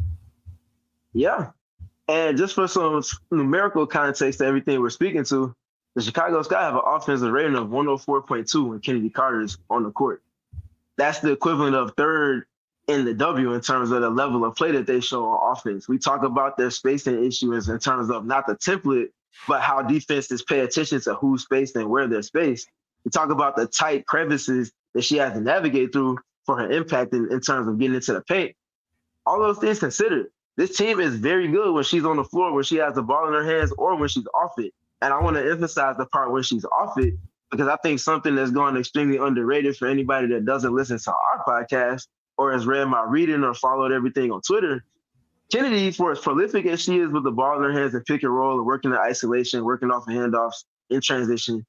Yeah. And just for some numerical context to everything we're speaking to, the Chicago Sky have an offensive rating of 104.2 when Kennedy Carter is on the court. That's the equivalent of third in the W in terms of the level of play that they show on offense. We talk about their spacing issues in terms of not the template, but how defenses pay attention to who's spaced and where they're spaced. We talk about the tight crevices that she has to navigate through for her impact in terms of getting into the paint. All those things considered, this team is very good when she's on the floor, when she has the ball in her hands, or when she's off it. And I want to emphasize the part when she's off it, because I think something that's gone extremely underrated for anybody that doesn't listen to our podcast or has read my reading or followed everything on Twitter, Kennedy, for as prolific as she is with the ball in her hands and pick and roll and working in isolation, working off of handoffs in transition,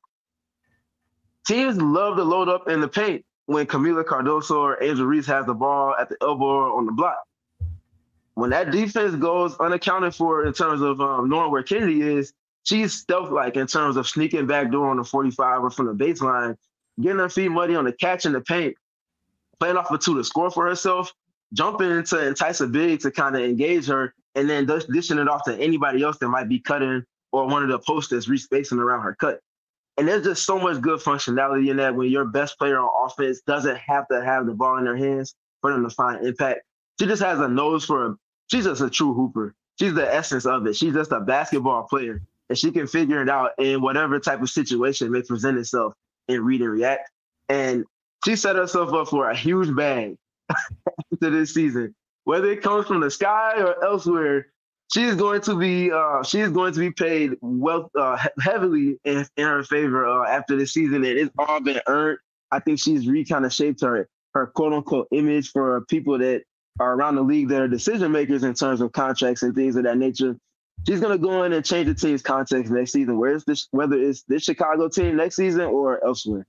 teams love to load up in the paint when Camila Cardoso or Angel Reese has the ball at the elbow or on the block. When that defense goes unaccounted for in terms of knowing where Kennedy is, she's stealth-like in terms of sneaking back door on the 45 or from the baseline, getting her feet muddy on the catch in the paint, playing off a 2 to score for herself, jumping in to entice a big to kind of engage her, and then dishing it off to anybody else that might be cutting or one of the posts that's respacing around her cut. And there's just so much good functionality in that when your best player on offense doesn't have to have the ball in their hands for them to find impact. She just has a nose she's just a true hooper. She's the essence of it. She's just a basketball player, and she can figure it out in whatever type of situation may present itself and read and react. And she set herself up for a huge bag to this season. Whether it comes from the Sky or elsewhere, she's going to be paid heavily in her favor after this season, and it's all been earned. I think she's kind of shaped her quote unquote image for people that are around the league that are decision makers in terms of contracts and things of that nature. She's going to go in and change the team's context next season, whether it's this Chicago team next season or elsewhere.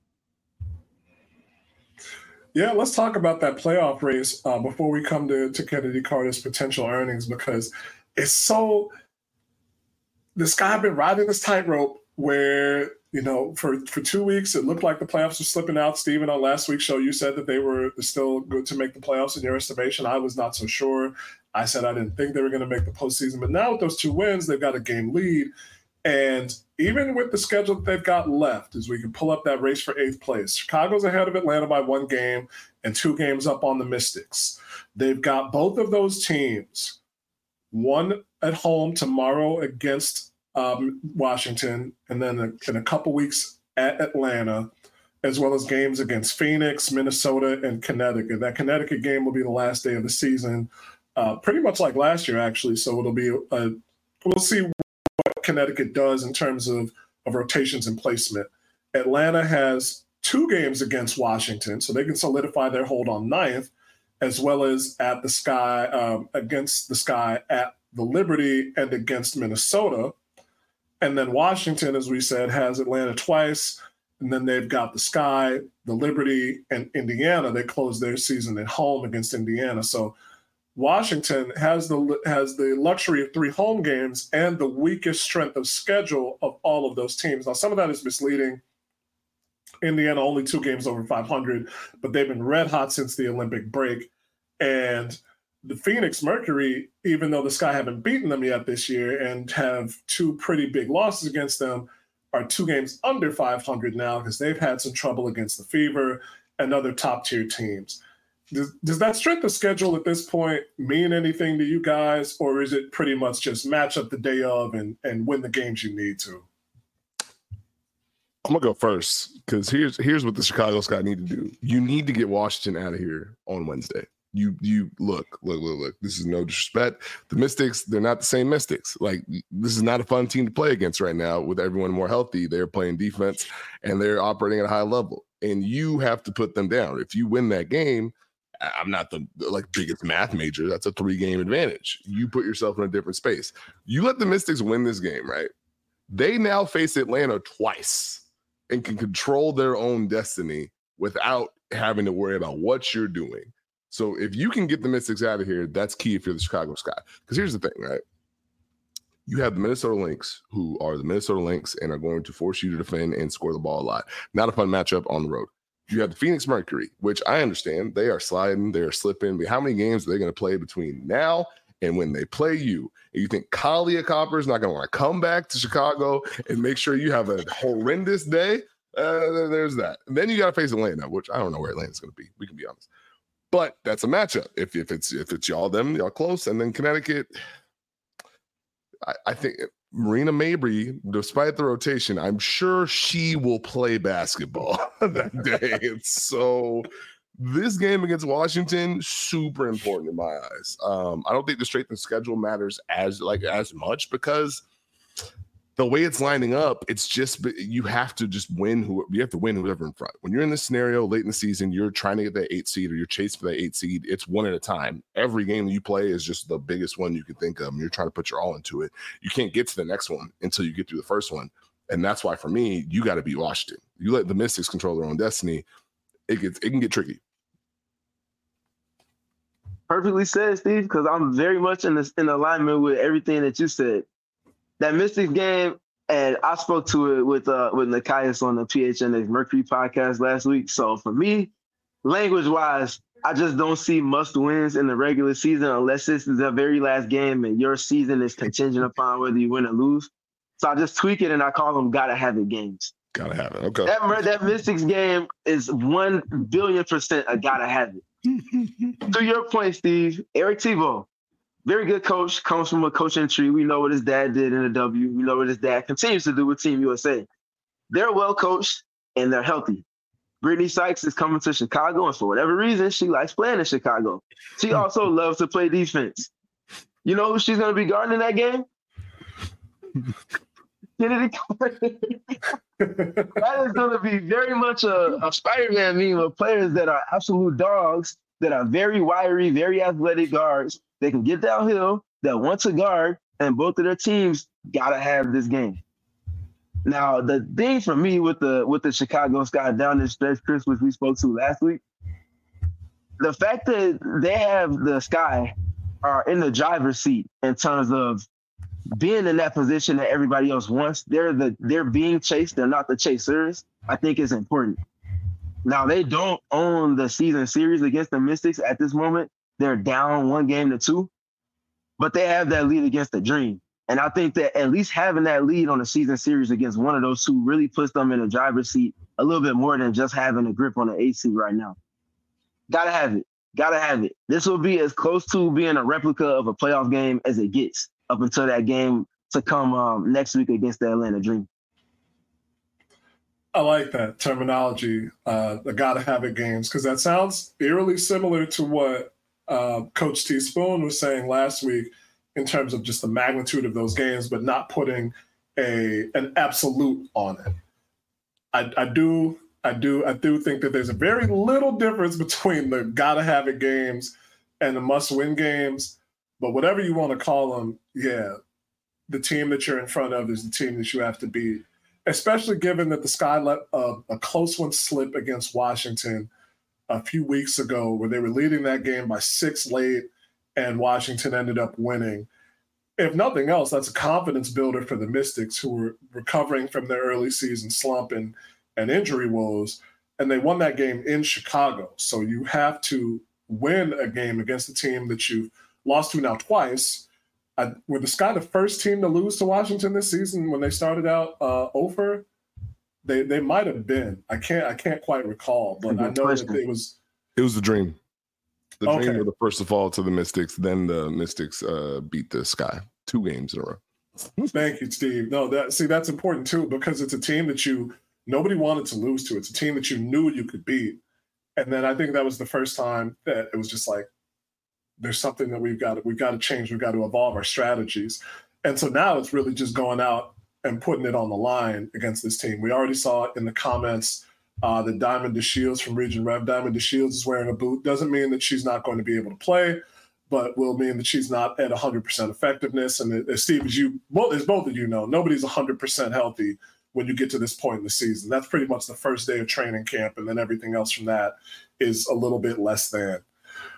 Yeah, let's talk about that playoff race before we come to Kennedy Carter's potential earnings, because it's so – the Sky have been riding this tightrope where, you know, for 2 weeks it looked like the playoffs were slipping out. Steven, on last week's show, you said that they were still good to make the playoffs in your estimation. I was not so sure. I said I didn't think they were going to make the postseason. But now with those 2 wins, they've got a game lead. And even with the schedule that they've got left, as we can pull up that race for 8th place, Chicago's ahead of Atlanta by 1 game and 2 games up on the Mystics. They've got both of those teams, one at home tomorrow against Washington, and then in a couple weeks at Atlanta, as well as games against Phoenix, Minnesota, and Connecticut. That Connecticut game will be the last day of the season, pretty much like last year, actually. So it'll be we'll see what Connecticut does in terms of rotations and placement. Atlanta has 2 games against Washington, so they can solidify their hold on 9th, as well as at the Sky against the Sky at the Liberty and against Minnesota. And then Washington, as we said, has Atlanta twice, and then they've got the Sky, the Liberty, and Indiana. They close their season at home against Indiana. So Washington has the luxury of 3 home games and the weakest strength of schedule of all of those teams. Now, some of that is misleading. Indiana only 2 games over 500, but they've been red hot since the Olympic break. And the Phoenix Mercury, even though the Sky haven't beaten them yet this year and have 2 pretty big losses against them, are 2 games under 500 now because they've had some trouble against the Fever and other top-tier teams. Does that strength of schedule at this point mean anything to you guys, or is it pretty much just match up the day of and win the games you need to? I'm going to go first because here's what the Chicago Sky need to do. You need to get Washington out of here on Wednesday. You look. This is no disrespect. The Mystics, they're not the same Mystics. Like, this is not a fun team to play against right now with everyone more healthy. They're playing defense and they're operating at a high level. And you have to put them down. If you win that game, I'm not the biggest math major. That's a 3-game advantage. You put yourself in a different space. You let the Mystics win this game, right? They now face Atlanta twice and can control their own destiny without having to worry about what you're doing. So if you can get the Mystics out of here, that's key if you're the Chicago Sky. Because here's the thing, right? You have the Minnesota Lynx, who are the Minnesota Lynx and are going to force you to defend and score the ball a lot. Not a fun matchup on the road. You have the Phoenix Mercury, which I understand they are sliding, they are slipping. But how many games are they going to play between now and when they play you? And you think Kahlia Copper is not going to want to come back to Chicago and make sure you have a horrendous day? There's that. And then you got to face Atlanta, which I don't know where Atlanta's going to be. We can be honest. But that's a matchup. If it's y'all close, and then Connecticut, I think Marina Mabrey, despite the rotation, I'm sure she will play basketball that day. And so this game against Washington, super important in my eyes. I don't think the strength of schedule matters as much because the way it's lining up, it's just you have to just win. You have to win whoever in front. When you're in this scenario late in the season, you're trying to get that 8 seed or you're chasing for that 8 seed. It's one at a time. Every game that you play is just the biggest one you can think of. And you're trying to put your all into it. You can't get to the next one until you get through the first one. And that's why, for me, you got to beat Washington. You let the Mystics control their own destiny, it can get tricky. Perfectly said, Steve, because I'm very much in alignment with everything that you said. That Mystics game, and I spoke to it with Nekias on the PHNX Mercury podcast last week. So for me, language-wise, I just don't see must-wins in the regular season unless this is the very last game and your season is contingent upon whether you win or lose. So I just tweak it and I call them gotta-have-it games. Gotta have it. Okay. That Mystics game is 1 billion% a gotta-have it. To your point, Steve, Eric Tebow, very good coach, comes from a coaching tree. We know what his dad did in the W. We know what his dad continues to do with Team USA. They're well coached and they're healthy. Brittany Sykes is coming to Chicago, and for whatever reason, she likes playing in Chicago. She also loves to play defense. You know who she's going to be guarding in that game? Kennedy Carter. That is going to be very much a Spider-Man meme of players that are absolute dogs, that are very wiry, very athletic guards. They can get downhill, that want to guard, and both of their teams gotta have this game. Now, the thing for me with the Chicago Sky down the stretch, Chris, which we spoke to last week, the fact that they have the Sky are in the driver's seat in terms of being in that position that everybody else wants. They're being chased, they're not the chasers, I think is important. Now, they don't own the season series against the Mystics at this moment. They're down 1-2, but they have that lead against the Dream. And I think that at least having that lead on the season series against one of those two really puts them in the driver's seat a little bit more than just having a grip on the 8 seed right now. Gotta have it. Gotta have it. This will be as close to being a replica of a playoff game as it gets up until that game to come next week against the Atlanta Dream. I like that terminology, the gotta have it games, because that sounds eerily similar to what Coach T. Spoon was saying last week in terms of just the magnitude of those games, but not putting an absolute on it. I do think that there's a very little difference between the gotta have it games and the must win games, but whatever you want to call them, yeah, the team that you're in front of is the team that you have to beat, especially given that the Sky let a close one slip against Washington a few weeks ago, where they were leading that game by 6 late and Washington ended up winning. If nothing else, that's a confidence builder for the Mystics, who were recovering from their early season slump and injury woes, and they won that game in Chicago. So you have to win a game against a team that you've lost to now twice. Were the Sky the first team to lose to Washington this season when they started out 0-for? They might have been. I can't quite recall, but I know that it was the Dream. The Dream were the first to fall to the Mystics. Then the Mystics beat the Sky 2 games in a row. Thank you, Steve. No, that's important too, because it's a team that nobody wanted to lose to. It's a team that you knew you could beat, and then I think that was the first time that it was just like, there's something that we've got to change. We've got to evolve our strategies, and so now it's really just going out and putting it on the line against this team. We already saw it in the comments that Diamond DeShields from Region Rev, Diamond DeShields is wearing a boot. Doesn't mean that she's not going to be able to play, but will mean that she's not at 100% effectiveness. And as Steve, as both of you know, nobody's 100% healthy when you get to this point in the season. That's pretty much the first day of training camp, and then everything else from that is a little bit less than.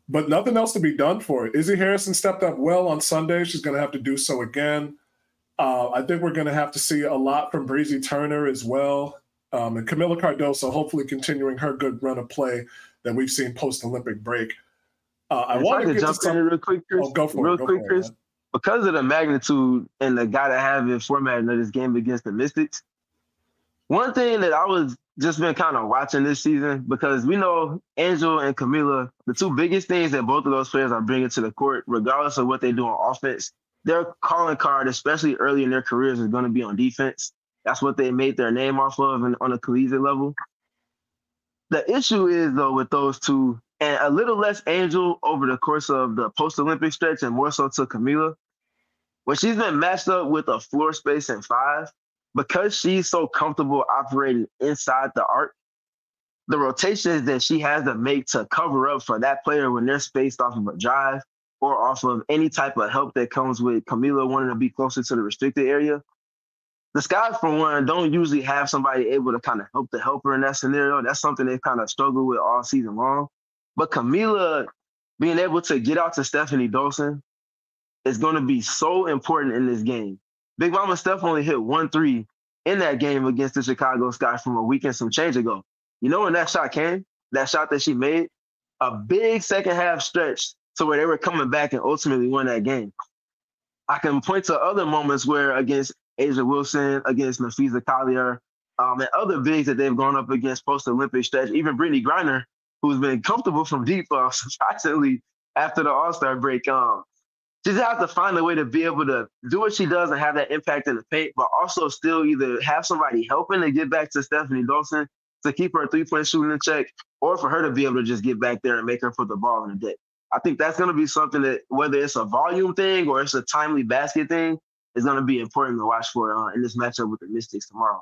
but nothing else to be done for it. Izzy Harrison stepped up well on Sunday. She's going to have to do so again. I think we're going to have to see a lot from Breezy Turner as well. And Camila Cardoso hopefully continuing her good run of play that we've seen post-Olympic break. I want to jump in real quick, Chris. Oh, go for it, Chris. Because of the magnitude and the gotta have it formatting of this game against the Mystics, one thing that I was just been kind of watching this season, because we know Angel and Camila, the two biggest things that both of those players are bringing to the court, regardless of what they do on offense, their calling card, especially early in their careers, is going to be on defense. That's what they made their name off of on a collegiate level. The issue is, though, with those two, and a little less Angel over the course of the post-Olympic stretch and more so to Camila, when she's been matched up with a floor space in 5, because she's so comfortable operating inside the arc, the rotations that she has to make to cover up for that player when they're spaced off of a drive or off of any type of help that comes with Camila wanting to be closer to the restricted area, the Skies, for one, don't usually have somebody able to kind of help the helper in that scenario. That's something they've kind of struggled with all season long. But Camila being able to get out to Stephanie Dolson is going to be so important in this game. Big Mama Steph only hit 1 3 in that game against the Chicago Sky from a week and some change ago. You know when that shot came? That shot that she made? A big second half stretch to where they were coming back and ultimately won that game. I can point to other moments where against Asia Wilson, against Nafisa Collier, and other bigs that they've gone up against post-Olympic stretch, even Brittany Griner, who's been comfortable from deep surprisingly after the All-Star break. She just has to find a way to be able to do what she does and have that impact in the paint, but also still either have somebody helping to get back to Stephanie Dolson to keep her three-point shooting in check, or for her to be able to just get back there and make her put the ball in the deck. I think that's going to be something that, whether it's a volume thing or it's a timely basket thing, is going to be important to watch for in this matchup with the Mystics tomorrow.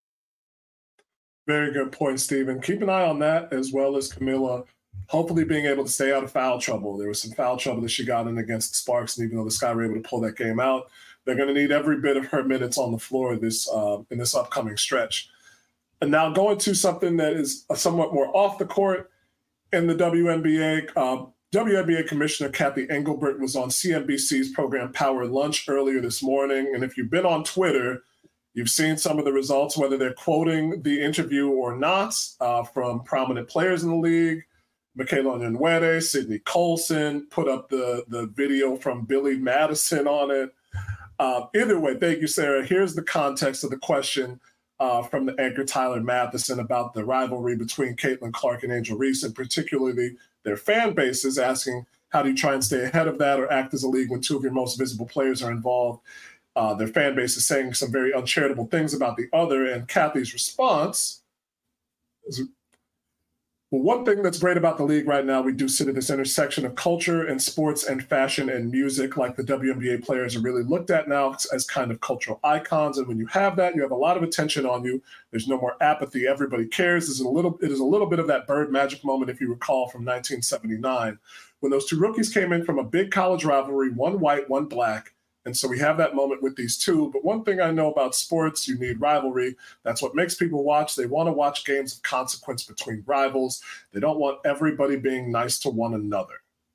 Very good point, Stephen. Keep an eye on that, as well as Camila hopefully being able to stay out of foul trouble. There was some foul trouble that she got in against the Sparks, and even though the Sky were able to pull that game out, they're going to need every bit of her minutes on the floor this in this upcoming stretch. And now going to something that is somewhat more off the court in the WNBA. WNBA Commissioner Kathy Engelbert was on CNBC's program Power Lunch earlier this morning. And if you've been on Twitter, you've seen some of the results, whether they're quoting the interview or not, from prominent players in the league. Michaela Onyenwere, Sydney Colson put up the video from Billy Madison on it. Either way, thank you, Sarah. Here's the context of the question from the anchor Tyler Matheson about the rivalry between Caitlin Clark and Angel Reese, and particularly their fan bases, asking how do you try and stay ahead of that or act as a league when two of your most visible players are involved. Their fan base is saying some very uncharitable things about the other, and Kathy's response is, well, one thing that's great about the league right now, we do sit at this intersection of culture and sports and fashion and music, like the WNBA players are really looked at now as kind of cultural icons. And when you have that, you have a lot of attention on you. There's no more apathy. Everybody cares. It is a little bit of that Bird Magic moment, if you recall, from 1979, when those two rookies came in from a big college rivalry, one white, one black. And so we have that moment with these two. But one thing I know about sports, you need rivalry. That's what makes people watch. They want to watch games of consequence between rivals. They don't want everybody being nice to one another.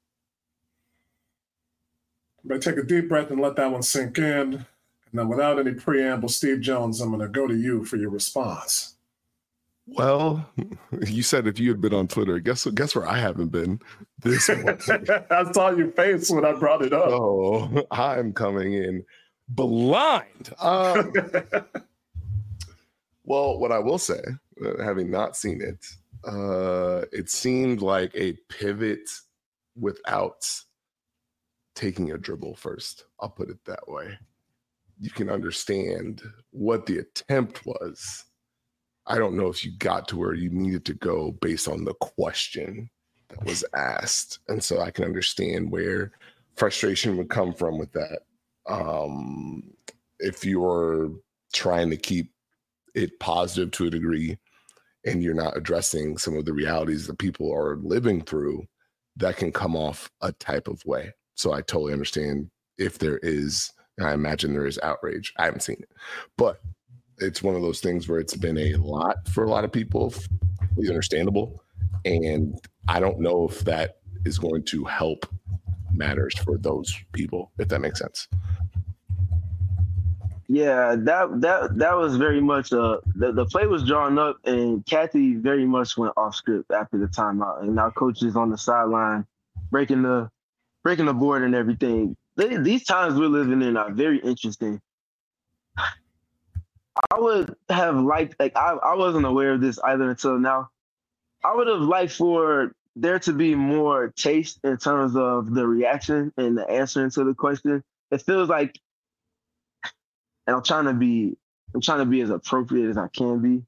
Everybody take a deep breath and let that one sink in. And then without any preamble, Steve Jones, I'm going to go to you for your response. Well, you said if you had been on Twitter, guess where I haven't been this morning. I saw your face when I brought it up. Oh, I'm coming in blind. Well, what I will say, having not seen it, it seemed like a pivot without taking a dribble first. I'll put it that way. You can understand what the attempt was. I don't know if you got to where you needed to go based on the question that was asked. And so I can understand where frustration would come from with that. If you're trying to keep it positive to a degree and you're not addressing some of the realities that people are living through, that can come off a type of way. So I totally understand if there is, and I imagine there is outrage. I haven't seen it, but it's one of those things where it's been a lot for a lot of people. It's understandable. And I don't know if that is going to help matters for those people, if that makes sense. Yeah, that was very much the play was drawn up, and Kathy very much went off script after the timeout, and now coach is on the sideline breaking the board and everything. These times we're living in are very interesting. I would have liked, I wasn't aware of this either until now. I would have liked for there to be more taste in terms of the reaction and the answering to the question. It feels like, and I'm trying to be as appropriate as I can be.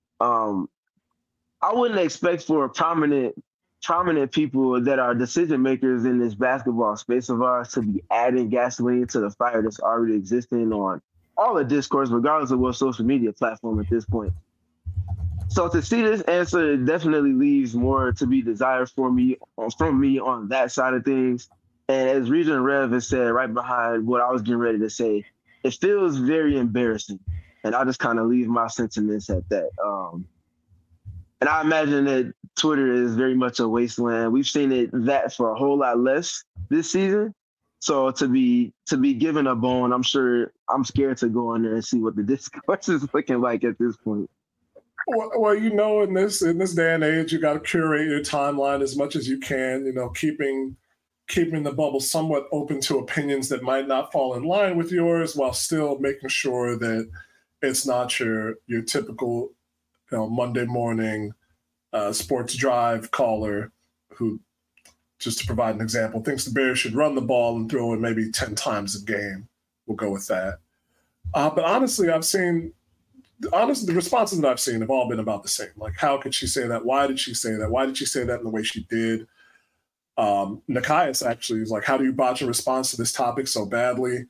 I wouldn't expect for prominent people that are decision makers in this basketball space of ours to be adding gasoline to the fire that's already existing on all the discourse, regardless of what social media platform at this point. So to see this answer, it definitely leaves more to be desired from me on that side of things. And as Regent Rev has said right behind what I was getting ready to say, it feels very embarrassing. And I'll just kind of leave my sentiments at that. And I imagine that Twitter is very much a wasteland. We've seen that for a whole lot less this season. So to be given a bone, I'm sure I'm scared to go in there and see what the discourse is looking like at this point. Well, in this day and age, you got to curate your timeline as much as you can. Keeping the bubble somewhat open to opinions that might not fall in line with yours, while still making sure that it's not your typical, Monday morning sports drive caller who, just to provide an example, thinks the Bears should run the ball and throw it maybe 10 times a game. We'll go with that. But honestly, the responses that I've seen have all been about the same. Like, how could she say that? Why did she say that? Why did she say that in the way she did? Nikias actually is like, how do you botch a response to this topic so badly?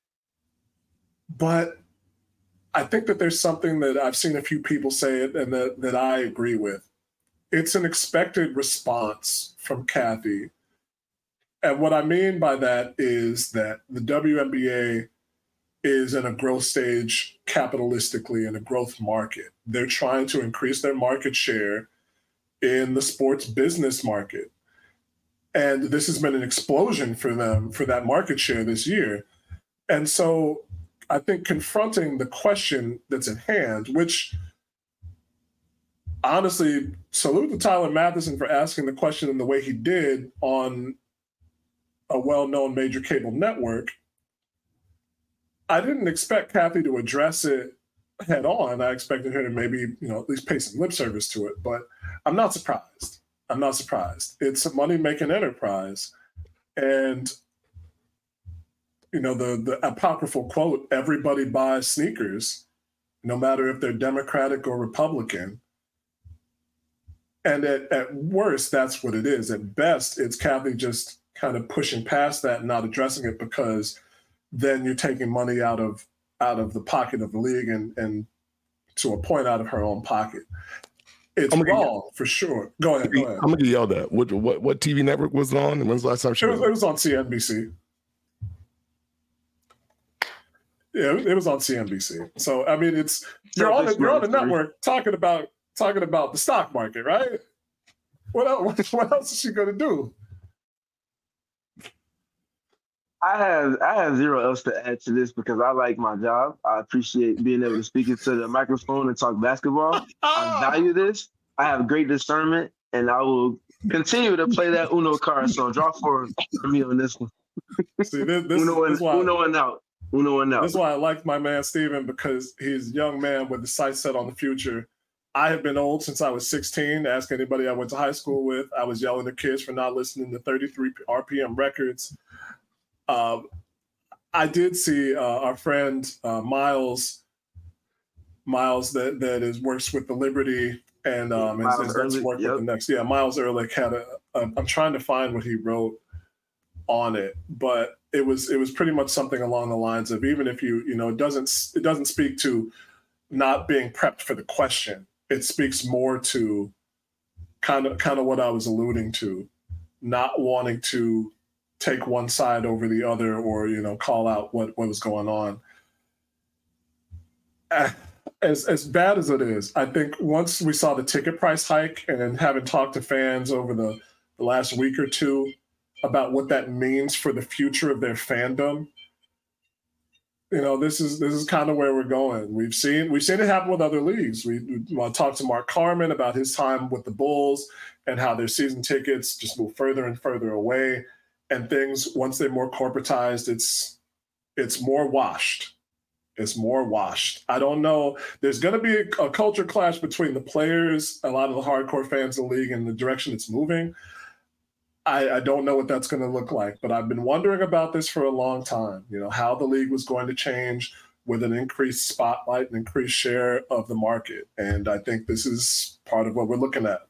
But I think that there's something that I've seen a few people say it and that I agree with. It's an expected response from Kathy. And what I mean by that is that the WNBA is in a growth stage capitalistically in a growth market. They're trying to increase their market share in the sports business market. And this has been an explosion for them for that market share this year. And so I think confronting the question that's at hand, which honestly, salute to Tyler Mathisen for asking the question in the way he did on a well-known major cable network. I didn't expect Kathy to address it head on. I expected her to maybe, at least pay some lip service to it, but I'm not surprised. It's a money-making enterprise. And, the apocryphal quote, everybody buys sneakers, no matter if they're Democratic or Republican. And at worst, that's what it is. At best, it's Kathy just kind of pushing past that and not addressing it, because then you're taking money out of the pocket of the league and to a point out of her own pocket. It's wrong for sure. Go ahead. I'm gonna get yelled at. What TV network was it on? And when's the last time it was on CNBC. Yeah, it was on CNBC. So I mean, you're on a network talking about the stock market, right? What else is she gonna do? I have zero else to add to this because I like my job. I appreciate being able to speak into the microphone and talk basketball. I value this. I have great discernment, and I will continue to play that Uno card. So draw for me on this one. See, Uno and out. This is why I like my man Steven, because he's a young man with the sights set on the future. I have been old since I was 16. Ask anybody I went to high school with. I was yelling at kids for not listening to 33 RPM records. I did see our friend Miles that works with the Liberty and does work with the next. Yeah, Miles Ehrlich had I'm trying to find what he wrote on it, but it was pretty much something along the lines of, even if it doesn't speak to not being prepped for the question. It speaks more to kind of what I was alluding to, not wanting to take one side over the other or, call out what was going on. As bad as it is, I think once we saw the ticket price hike and having talked to fans over the the last week or two about what that means for the future of their fandom. You know, this is kind of where we're going. We've seen it happen with other leagues. We talked to Mark Carman about his time with the Bulls and how their season tickets just move further and further away, and things, once they're more corporatized, it's more washed. It's more washed. I don't know. There's going to be a culture clash between the players, a lot of the hardcore fans of the league, and the direction it's moving. I don't know what that's going to look like, but I've been wondering about this for a long time, you know, how the league was going to change with an increased spotlight and increased share of the market. And I think this is part of what we're looking at.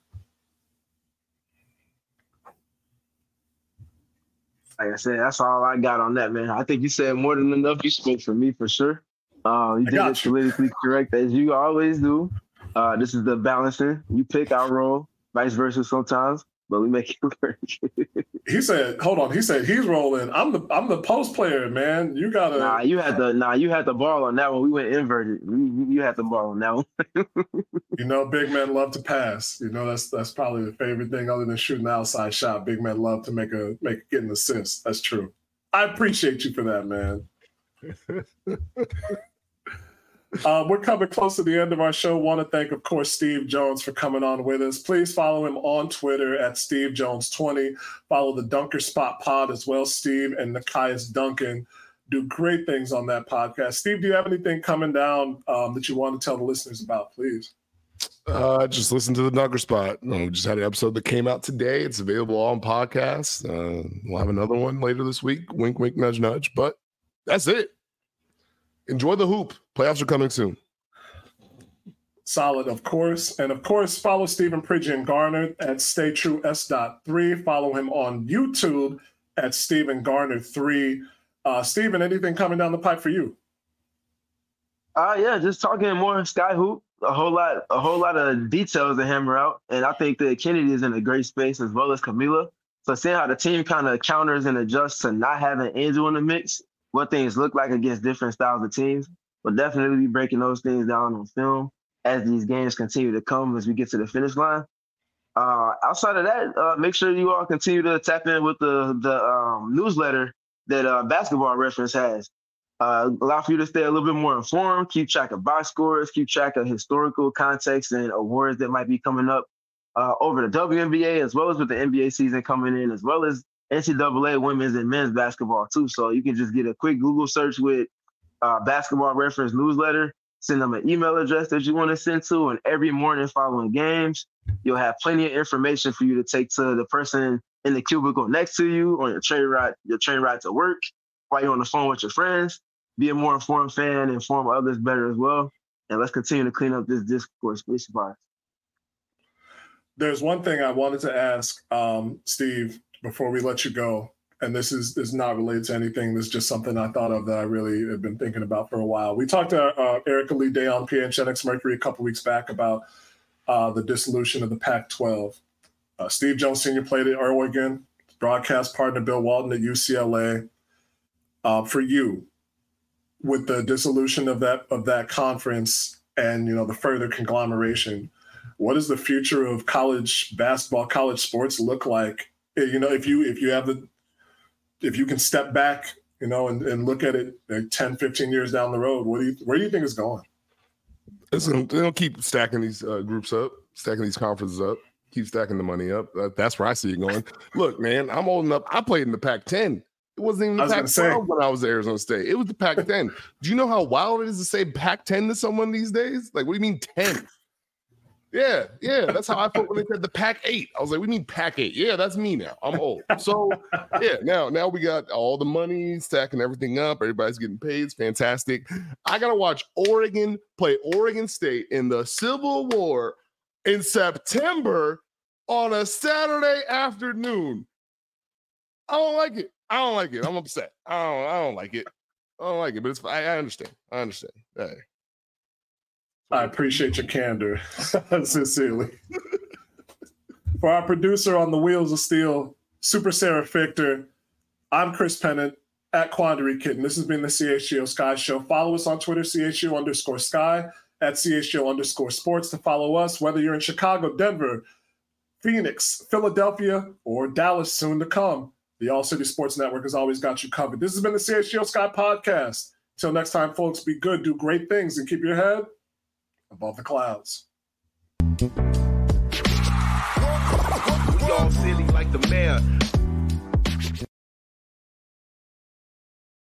Like I said, that's all I got on that, man. I think you said more than enough. You spoke for me for sure. You did it politically correct as you always do. This is the balancing. You pick, I roll, vice versa sometimes, but we make it work. He said, hold on. He said he's rolling. I'm the post player, man. You gotta. You had the ball on that one. We went inverted. You had the ball on that one. You know, big men love to pass. You know, that's probably the favorite thing other than shooting the outside shot. Big men love to get an assist. That's true. I appreciate you for that, man. We're coming close to the end of our show. Want to thank, of course, Steve Jones for coming on with us. Please follow him on Twitter at SteveJones20. Follow the Dunker Spot Pod as well. Steve and Nekias Duncan do great things on that podcast. Steve, do you have anything coming down that you want to tell the listeners about, please? Just listen to the Dunker Spot. We just had an episode that came out today. It's available on podcasts. We'll have another one later this week. Wink, wink, nudge, nudge. But that's it. Enjoy the hoop. Playoffs are coming soon. Solid, of course. And of course, follow Stephen Pridgeon Garner at StayTrueS.3. Follow him on YouTube at Stephen Garner 3. Stephen, anything coming down the pipe for you? Yeah, just talking more Sky Hoop. A whole lot of details to hammer out. And I think that Kennedy is in a great space as well as Camila. So seeing how the team kind of counters and adjusts to not having Angel in the mix, what things look like against different styles of teams. We'll definitely be breaking those things down on film as these games continue to come as we get to the finish line. Outside of that, make sure you all continue to tap in with the newsletter that Basketball Reference has. Allow for you to stay a little bit more informed, keep track of box scores, keep track of historical context and awards that might be coming up over the WNBA, as well as with the NBA season coming in, as well as NCAA women's and men's basketball too. So you can just get a quick Google search with Basketball Reference newsletter, send them an email address that you want to send to, and every morning following games, you'll have plenty of information for you to take to the person in the cubicle next to you on your train ride to work, while you're on the phone with your friends. Be a more informed fan, inform others better as well. And let's continue to clean up this discourse. Please survive. There's one thing I wanted to ask, Steve, before we let you go, and this is not related to anything. This is just something I thought of that I really have been thinking about for a while. We talked to Erica Lee Day on PHNX Mercury a couple weeks back about the dissolution of the Pac-12. Steve Jones Sr. played at Oregon, broadcast partner Bill Walton at UCLA. For you, with the dissolution of that conference and the further conglomeration, what does the future of college basketball, college sports look like? If you can step back, and look at it like 10, 15 years down the road, where do you think it's going? They're gonna keep stacking these groups up, stacking these conferences up, keep stacking the money up. That's where I see it going. Look, man, I'm old enough. I played in the Pac-10. It wasn't even the Pac-12 when I was at Arizona State. It was the Pac-10. Do you know how wild it is to say Pac-10 to someone these days? Like, what do you mean 10? Yeah. That's how I felt when they said the Pac-8. I was like, we mean Pac-8. Yeah, that's me now. I'm old. So, yeah, now we got all the money, stacking everything up. Everybody's getting paid. It's fantastic. I got to watch Oregon play Oregon State in the Civil War in September on a Saturday afternoon. I don't like it. I'm upset. I don't like it. But it's I understand. Hey. I appreciate your candor, sincerely. For our producer on the Wheels of Steel, Super Sarah Fichter, I'm Chris Pennant at Quandary Kitten. This has been the CHGO Sky Show. Follow us on Twitter, CHGO_Sky, at CHGO_sports to follow us, whether you're in Chicago, Denver, Phoenix, Philadelphia, or Dallas soon to come. The All City Sports Network has always got you covered. This has been the CHGO Sky Podcast. Till next time, folks, be good, do great things, and keep your head above the clouds. We all silly like the mayor.